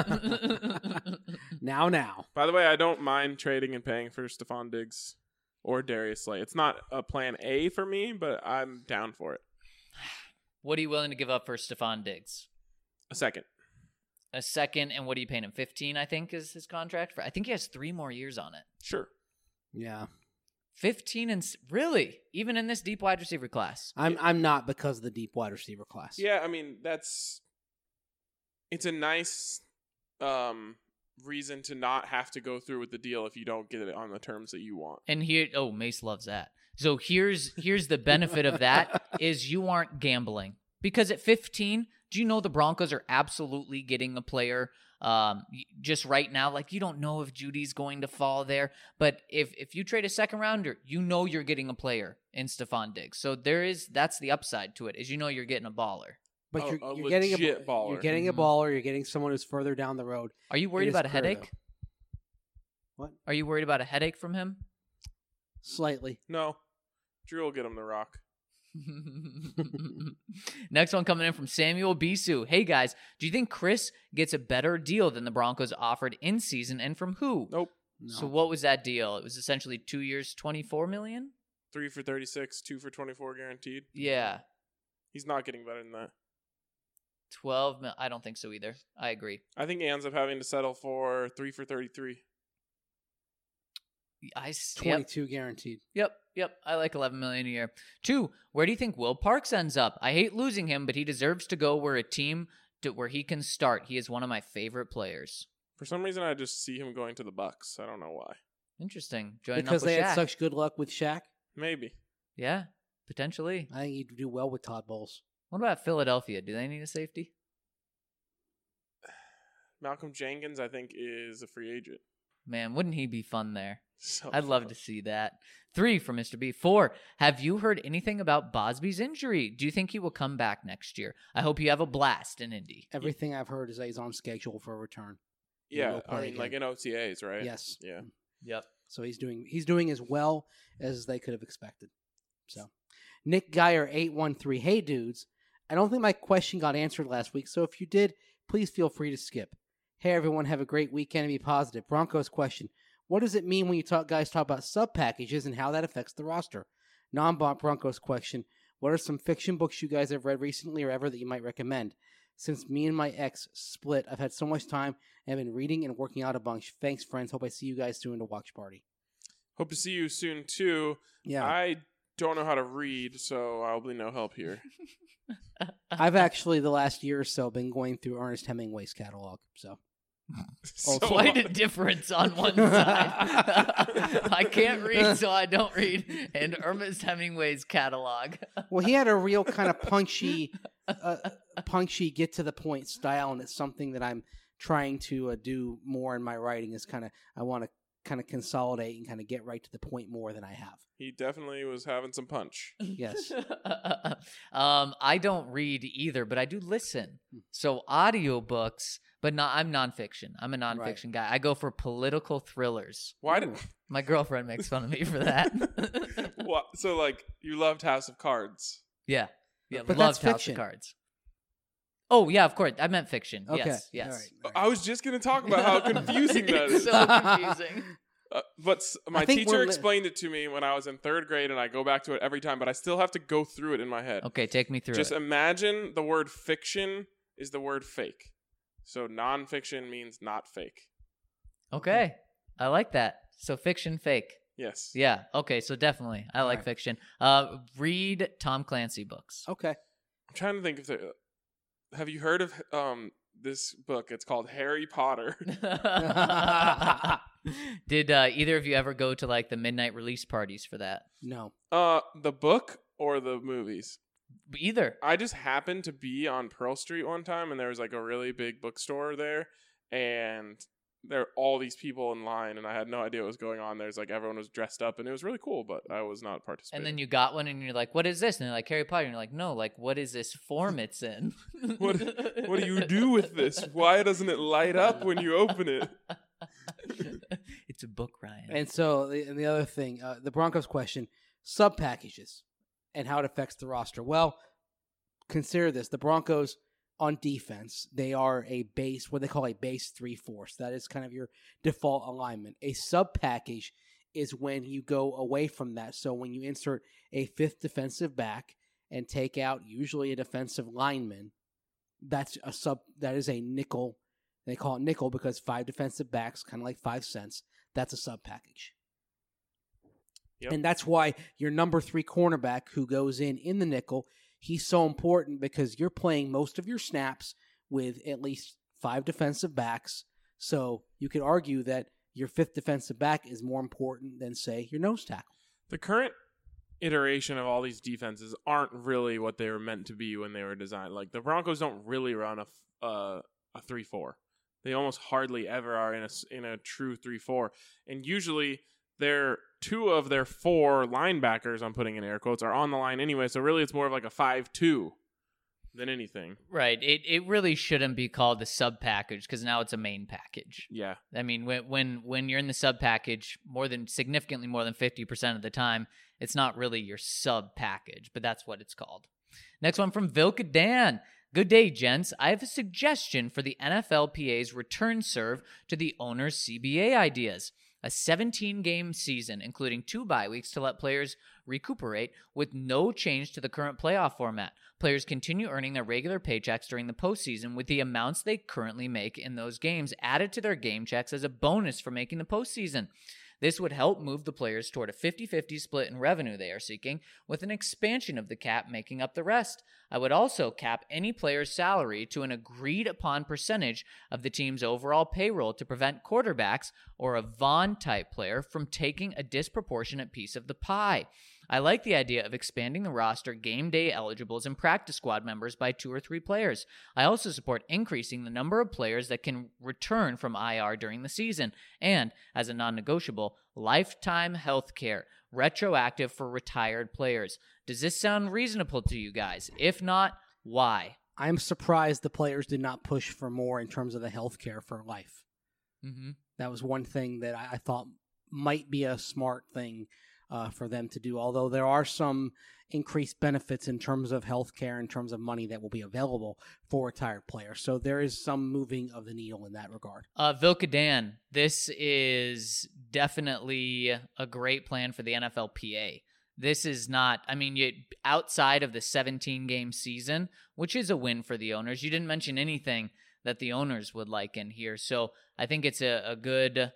Now. By the way, I don't mind trading and paying for Stephon Diggs or Darius Slay. It's not a plan A for me, but I'm down for it. what are you willing to give up for Stephon Diggs? A second. A second, and what are you paying him? 15, I think, is his contract. I think he has 3 more years on it. Sure. Yeah. 15 and really, even in this deep wide receiver class. I'm not because of the deep wide receiver class. Yeah, I mean, it's a nice reason to not have to go through with the deal if you don't get it on the terms that you want. And here, Mace loves that. So here's the benefit of that is you aren't gambling. Because at 15, do you know the Broncos are absolutely getting a player just right now? Like, you don't know if Judy's going to fall there. But if you trade a second rounder, you know you're getting a player in Stephon Diggs. So that's the upside to it, is you know you're getting a baller. But A you're getting legit baller. You're getting a baller. You're getting someone who's further down the road. Are you worried It is about a clear, headache? though. What? Are you worried about a headache from him? Slightly. No. Drew will get him the rock. Next one coming in from Samuel Bisu. Hey guys, do you think Chris gets a better deal than the Broncos offered in season, and from who? Nope. No. So what was that deal? It was essentially 2 years, $24 million? 3 for 36, 2 for 24 guaranteed. Yeah. He's not getting better than that. 12 mil. I don't think so either. I agree. I think he ends up having to settle for 3 for 33. Yep. 22 guaranteed. Yep. I like 11 million a year. 2, where do you think Will Parks ends up? I hate losing him, but he deserves to go where where he can start. He is one of my favorite players. For some reason, I just see him going to the Bucks. I don't know why. Interesting. Joining Because up with they Shaq. had such good luck with Shaq. Maybe. Yeah, potentially. I think he'd do well with Todd Bowles. What about Philadelphia? Do they need a safety? Malcolm Jenkins, I think, is a free agent. Man, wouldn't he be fun there? So I'd love to see that. 3 for Mr. B. 4, have you heard anything about Bosby's injury? Do you think he will come back next year? I hope you have a blast in Indy. Everything I've heard is that he's on schedule for a return. He Yeah, will I play mean, again. like in OTAs, right? Yes. Yeah. Yep. So he's doing as well as they could have expected. So Nick Geyer 813. Hey dudes, I don't think my question got answered last week, so if you did, please feel free to skip. Hey everyone, have a great weekend and be positive. Broncos question. What does it mean when you guys talk about sub packages and how that affects the roster? Non-Broncos question. What are some fiction books you guys have read recently or ever that you might recommend? Since me and my ex split, I've had so much time and I've been reading and working out a bunch. Thanks, friends. Hope I see you guys soon at a watch party. Hope to see you soon, too. Yeah. I don't know how to read, so I'll be no help here. I've actually, the last year or so, been going through Ernest Hemingway's catalog. So So, Quite a difference on one side. I can't read, so I don't read. And Ernest Hemingway's catalog. Well, he had a real kind of punchy, get to the point style, and it's something that I'm trying to do more in my writing. Is I want to kind of consolidate and kind of get right to the point more than I have. He definitely was having some punch. Yes. I don't read either, but I do listen. So audiobooks, but I'm nonfiction. I'm a nonfiction guy. I go for political thrillers. Why did... My girlfriend makes fun of me for that. What? So, like, you loved House of Cards. Yeah. But Loved that's House fiction. of Cards. Oh, yeah, of course. I meant fiction. Okay. Yes. All right. I was just going to talk about how confusing that is. So confusing. But my I think teacher we're explained it to me when I was in 3rd grade, and I go back to it every time, but I still have to go through it in my head. Okay, take me through Just it. imagine the word fiction is the word fake. So nonfiction means not fake. Okay. I like that. So fiction, fake. Yes. Yeah. Okay, so definitely. I like Right. fiction. Read Tom Clancy books. Okay. I'm trying to think if there... Have you heard of this book? It's called Harry Potter. Did either of you ever go to like the midnight release parties for that? No. The book or the movies? Either. I just happened to be on Pearl Street one time, and there was like a really big bookstore there, and there are all these people in line, and I had no idea what was going on. There's like everyone was dressed up, and it was really cool, but I was not participating. And then you got one, and you're like, "What is this?" And they're like, "Harry Potter." And you're like, "No, like, what is this form it's in?" what do you do with this? Why doesn't it light up when you open it? It's a book, Ryan. And so, the other thing, the Broncos question, sub packages and how it affects the roster. Well, consider this: the Broncos on defense, they are a base, what they call a base 3-4. That is kind of your default alignment. A sub package is when you go away from that. So when you insert a fifth defensive back and take out usually a defensive lineman, that's a sub. That is a nickel. They call it nickel because 5 defensive backs, kind of like 5 cents. That's a sub package. Yep. And that's why your number 3 cornerback who goes in the nickel, he's so important because you're playing most of your snaps with at least 5 defensive backs. So you could argue that your 5th defensive back is more important than, say, your nose tackle. The current iteration of all these defenses aren't really what they were meant to be when they were designed. Like the Broncos don't really run a 3-4. They almost hardly ever are in a true 3-4. And usually they're 2 of their 4 linebackers, I'm putting in air quotes, are on the line anyway. So really it's more of like a 5-2 than anything. Right. It really shouldn't be called the sub package because now it's a main package. Yeah. I mean, when you're in the sub package, significantly more than 50% of the time, it's not really your sub package, but that's what it's called. Next one from Vilka Dan. Good day, gents. I have a suggestion for the NFLPA's return serve to the owner's CBA ideas. A 17-game season, including 2 bye weeks to let players recuperate with no change to the current playoff format. Players continue earning their regular paychecks during the postseason with the amounts they currently make in those games added to their game checks as a bonus for making the postseason. This would help move the players toward a 50-50 split in revenue they are seeking, with an expansion of the cap making up the rest. I would also cap any player's salary to an agreed-upon percentage of the team's overall payroll to prevent quarterbacks or a Vaughn-type player from taking a disproportionate piece of the pie. I like the idea of expanding the roster game day eligibles and practice squad members by 2 or 3 players. I also support increasing the number of players that can return from IR during the season. And, as a non-negotiable, lifetime health care, retroactive for retired players. Does this sound reasonable to you guys? If not, why? I'm surprised the players did not push for more in terms of the health care for life. Mm-hmm. That was one thing that I thought might be a smart thing for them to do, although there are some increased benefits in terms of health care, in terms of money that will be available for retired players. So there is some moving of the needle in that regard. Vilka Dan, this is definitely a great plan for the NFLPA. This is not, outside of the 17-game season, which is a win for the owners. You didn't mention anything that the owners would like in here. So I think it's a good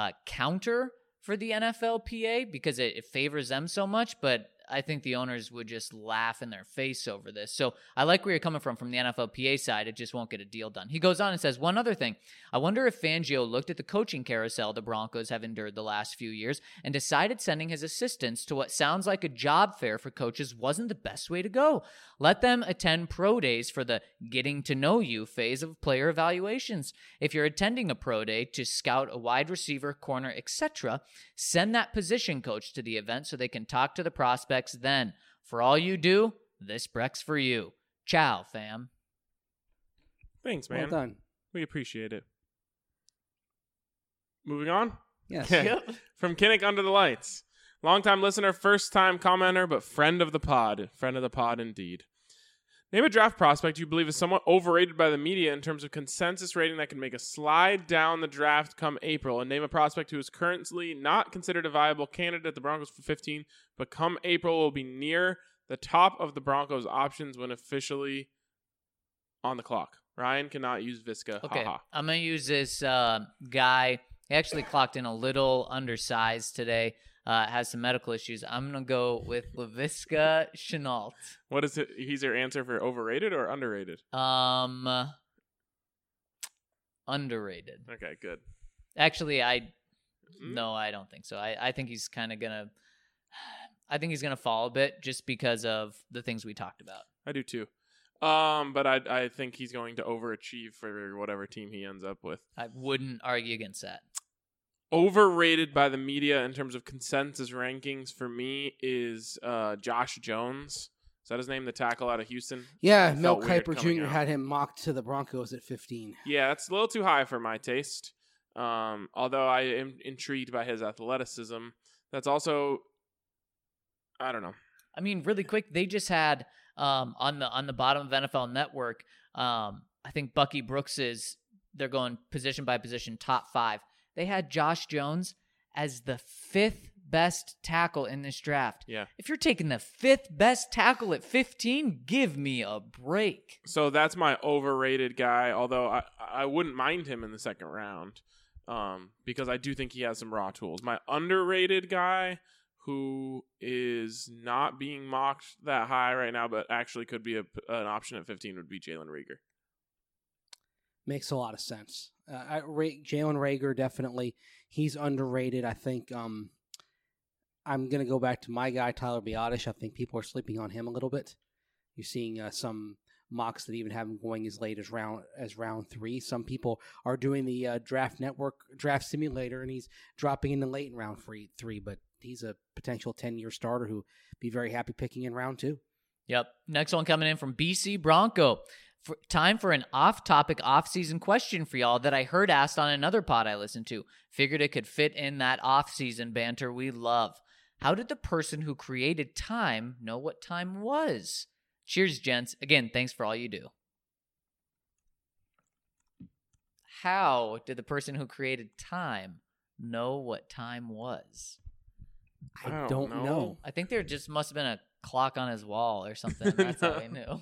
counter for the NFLPA because it favors them so much, but I think the owners would just laugh in their face over this. So I like where you're coming from the NFLPA side. It just won't get a deal done. He goes on and says, one other thing. I wonder if Fangio looked at the coaching carousel the Broncos have endured the last few years and decided sending his assistants to what sounds like a job fair for coaches wasn't the best way to go. Let them attend pro days for the getting to know you phase of player evaluations. If you're attending a pro day to scout a wide receiver, corner, etc., send that position coach to the event so they can talk to the prospects then. For all you do, this Breck's for you. Ciao, fam. Thanks, man. Well done. We appreciate it. Moving on? Yes. Yep. From Kinnick Under the Lights. Longtime listener, first-time commenter, but friend of the pod. Friend of the pod, indeed. Name a draft prospect you believe is somewhat overrated by the media in terms of consensus rating that can make a slide down the draft come April. And name a prospect who is currently not considered a viable candidate at the Broncos for 15, but come April will be near the top of the Broncos' options when officially on the clock. Ryan cannot use Visca. Okay, Haha. I'm going to use this guy. He actually clocked in a little undersized today. Has some medical issues. I'm going to go with Laviska Shenault. What is it? He's your answer for overrated or underrated? Underrated. Okay, good. Actually, no, I don't think so. I think he's kind of going to fall a bit just because of the things we talked about. I do too. But I think he's going to overachieve for whatever team he ends up with. I wouldn't argue against that. Overrated by the media in terms of consensus rankings for me is Josh Jones. Is that his name, the tackle out of Houston? Yeah, It Mel felt weird Kiper coming Jr. out. had him mocked to the Broncos at 15. Yeah, it's a little too high for my taste. Although I am intrigued by his athleticism. That's also, I don't know. I mean, really quick, they just had on the bottom of NFL Network. I think Bucky Brooks they're going position by position, top 5. They had Josh Jones as the 5th best tackle in this draft. Yeah. If you're taking the 5th best tackle at 15, give me a break. So that's my overrated guy, although I wouldn't mind him in the second round because I do think he has some raw tools. My underrated guy who is not being mocked that high right now but actually could be an option at 15 would be Jalen Reagor. Makes a lot of sense. Jalen Reagor, definitely. He's underrated. I think I'm going to go back to my guy, Tyler Biadasz. I think people are sleeping on him a little bit. You're seeing some mocks that even have him going as late as round 3. Some people are doing the Draft Network draft simulator, and he's dropping in the late in round 3. But he's a potential 10-year starter who be very happy picking in round 2. Yep. Next one coming in from BC Bronco. Time for an off-topic, off-season question for y'all that I heard asked on another pod I listened to. Figured it could fit in that off-season banter we love. How did the person who created time know what time was? Cheers, gents. Again, thanks for all you do. How did the person who created time know what time was? I don't know. I think there just must have been a clock on his wall or something. That's how he knew.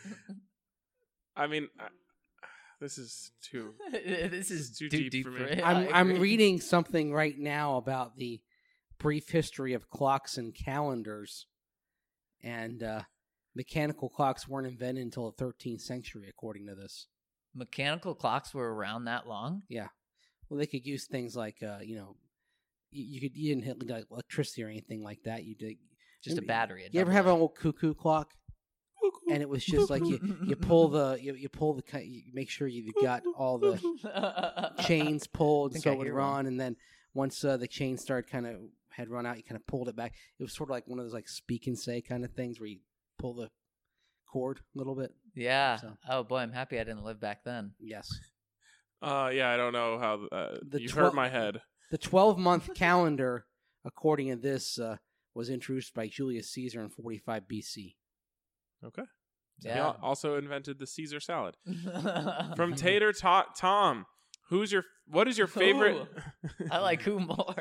I mean, this is too This is too too deep for me. it. I'm reading something right now about the brief history of clocks and calendars, and mechanical clocks weren't invented until the 13th century, according to this. Mechanical clocks were around that long? Yeah, well, they could use things like you didn't hit like electricity or anything like that. You did Just a battery. You ever have an old cuckoo clock? And it was just like you pull the you make sure you got all the chains pulled think so I it would hear run, one. and then once the chain started had run out, you kind of pulled it back. It was sort of like one of those like speak and say kind of things where you pull the cord a little bit. Yeah. So. Oh boy, I'm happy I didn't live back then. Yes. Yeah, I don't know how you 12 hurt my head. The 12-month calendar, according to this, was introduced by Julius Caesar in 45 BC. Okay. He Yeah. also invented the Caesar salad. From Tater Tom, what is your favorite? I like who more.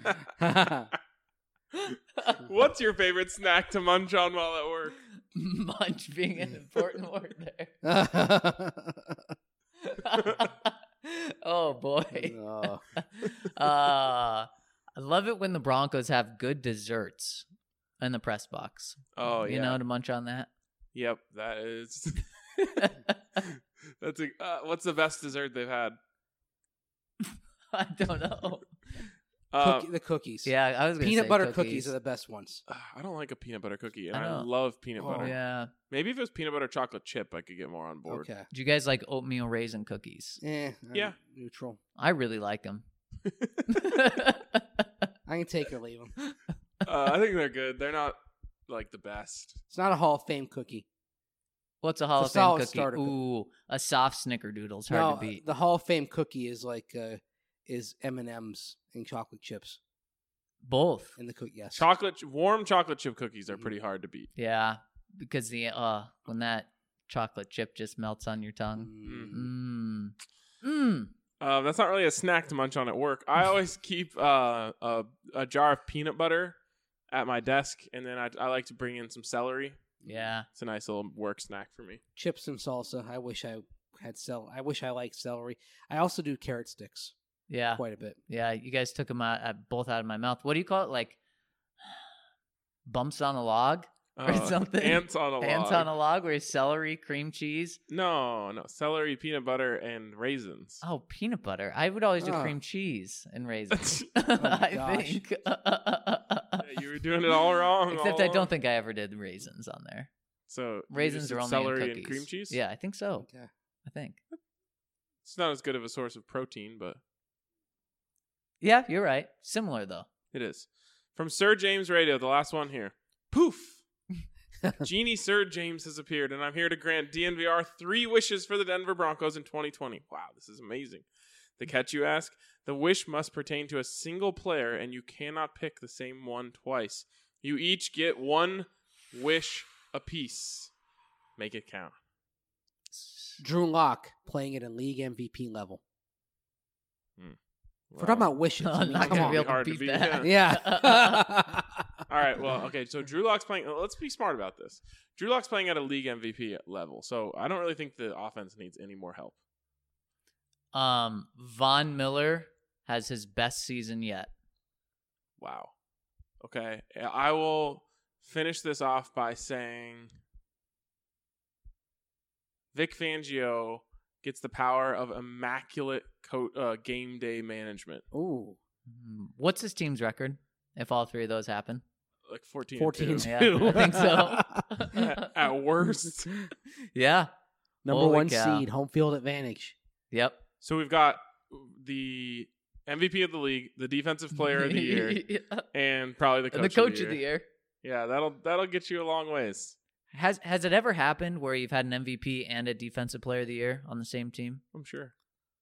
What's your favorite snack to munch on while at work? Munch being an important word there. Oh boy. Oh. I love it when the Broncos have good desserts in the press box. Oh yeah. You know, to munch on that. Yep, that is. That's what's the best dessert they've had? I don't know. The cookies. Yeah, I was gonna Peanut say butter cookies are the best ones. I don't like a peanut butter cookie, and I I know. love peanut butter. Yeah. Maybe if it was peanut butter chocolate chip, I could get more on board. Okay. Do you guys like oatmeal raisin cookies? I'm Yeah. neutral. I really like them. I can take or leave them. I think they're good. They're not like the best. It's not a Hall of Fame cookie. What's a Hall It's of a Fame solid cookie? starter cookie. Ooh, a soft snickerdoodle's hard to beat. The Hall of Fame cookie is like is M&M's and chocolate chips Both. in the cookie. Yes. Warm chocolate chip cookies are pretty hard to beat. Yeah, because the when that chocolate chip just melts on your tongue. That's not really a snack to munch on at work. I always keep a jar of peanut butter at my desk, and then I like to bring in some celery. Yeah. It's a nice little work snack for me. Chips and salsa. I wish I had I wish I liked celery. I also do carrot sticks Yeah. quite a bit. Yeah. You guys took them both out of my mouth. What do you call it? Like bumps on a log or something? Ants on a log. Ants on a log where it's celery, cream cheese. No. Celery, peanut butter, and raisins. Oh, peanut butter. I would always do Oh. cream cheese and raisins. gosh. I think. Yeah, you were doing it all wrong. Except I don't think I ever did raisins on there. So Raisins are only in celery cookies. and cream cheese. Yeah, I think so. Okay. I think. It's not as good of a source of protein, but Yeah, you're right. Similar though. it is. From Sir James Radio, the last one here. Poof! Genie Sir James has appeared, and I'm here to grant DNVR 3 wishes for the Denver Broncos in 2020. Wow, this is amazing. The catch, you ask? The wish must pertain to a single player, and you cannot pick the same one twice. You each get 1 wish apiece. Make it count. Drew Lock playing at a league MVP level. Wow. We're talking about wishes. I I'm mean, not come gonna on. be able Hard to to beat beat, that. Yeah. All right, well, okay, so Drew Lock's playing. Let's be smart about this. Drew Lock's playing at a league MVP level, so I don't really think the offense needs any more help. Von Miller has his best season yet. Wow. Okay, I will finish this off by saying Vic Fangio gets the power of immaculate game day management. Ooh. What's his team's record if all 3 of those happen? Like 14 14 and 2. Yeah, I think so. At worst. Yeah. Number Holy 1 cow. seed, home field advantage. Yep. So we've got the MVP of the league, the defensive player of the year, and probably the coach, the coach of the year. Yeah, that'll get you a long ways. Has it ever happened where you've had an MVP and a defensive player of the year on the same team? I'm sure.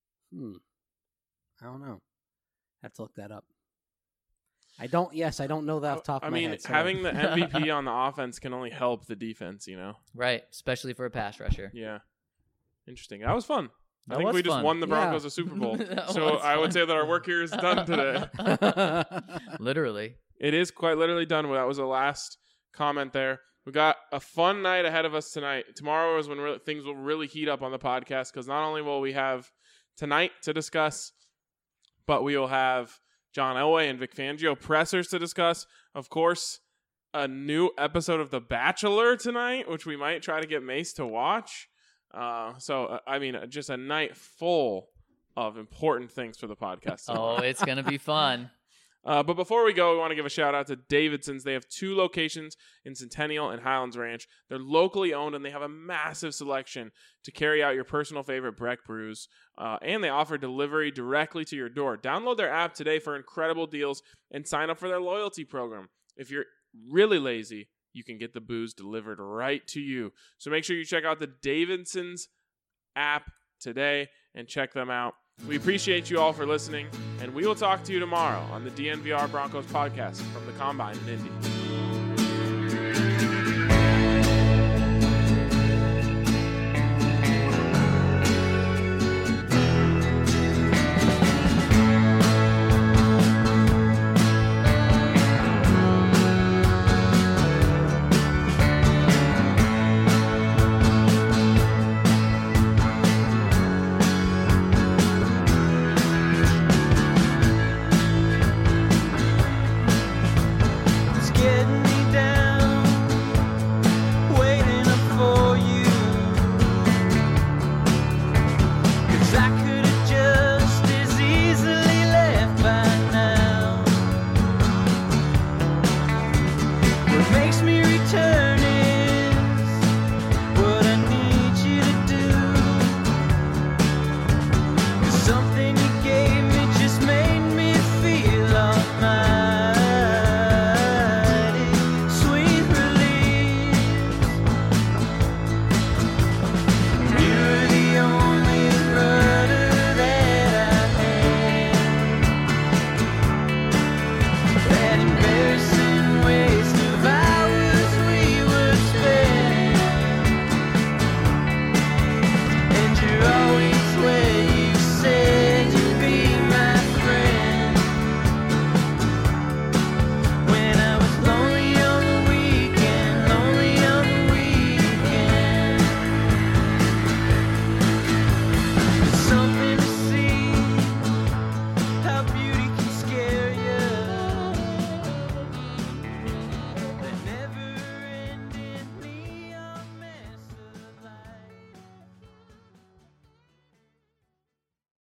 I don't know. Have to look that up. I don't know that off the top of my head. So having the MVP on the offense can only help the defense, you know? Right, especially for a pass rusher. Yeah. Interesting. That was fun. I That think was we just fun. won the Broncos Yeah. a Super Bowl. That So was I would fun. say that our work here is done today. Literally. It is quite literally done. That was the last comment there. We got a fun night ahead of us tonight. Tomorrow is when things will really heat up on the podcast because not only will we have tonight to discuss, but we will have John Elway and Vic Fangio pressers to discuss. Of course, a new episode of The Bachelor tonight, which we might try to get Mace to watch. Just a night full of important things for the podcast tomorrow. Oh, it's going to be fun. But before we go, we want to give a shout out to Davidson's. They have 2 locations in Centennial and Highlands Ranch. They're locally owned, and they have a massive selection to carry out your personal favorite Breck brews. And they offer delivery directly to your door. Download their app today for incredible deals and sign up for their loyalty program. If you're really lazy, you can get the booze delivered right to you. So make sure you check out the Davidson's app today and check them out. We appreciate you all for listening, and we will talk to you tomorrow on the DNVR Broncos podcast from the Combine in Indy.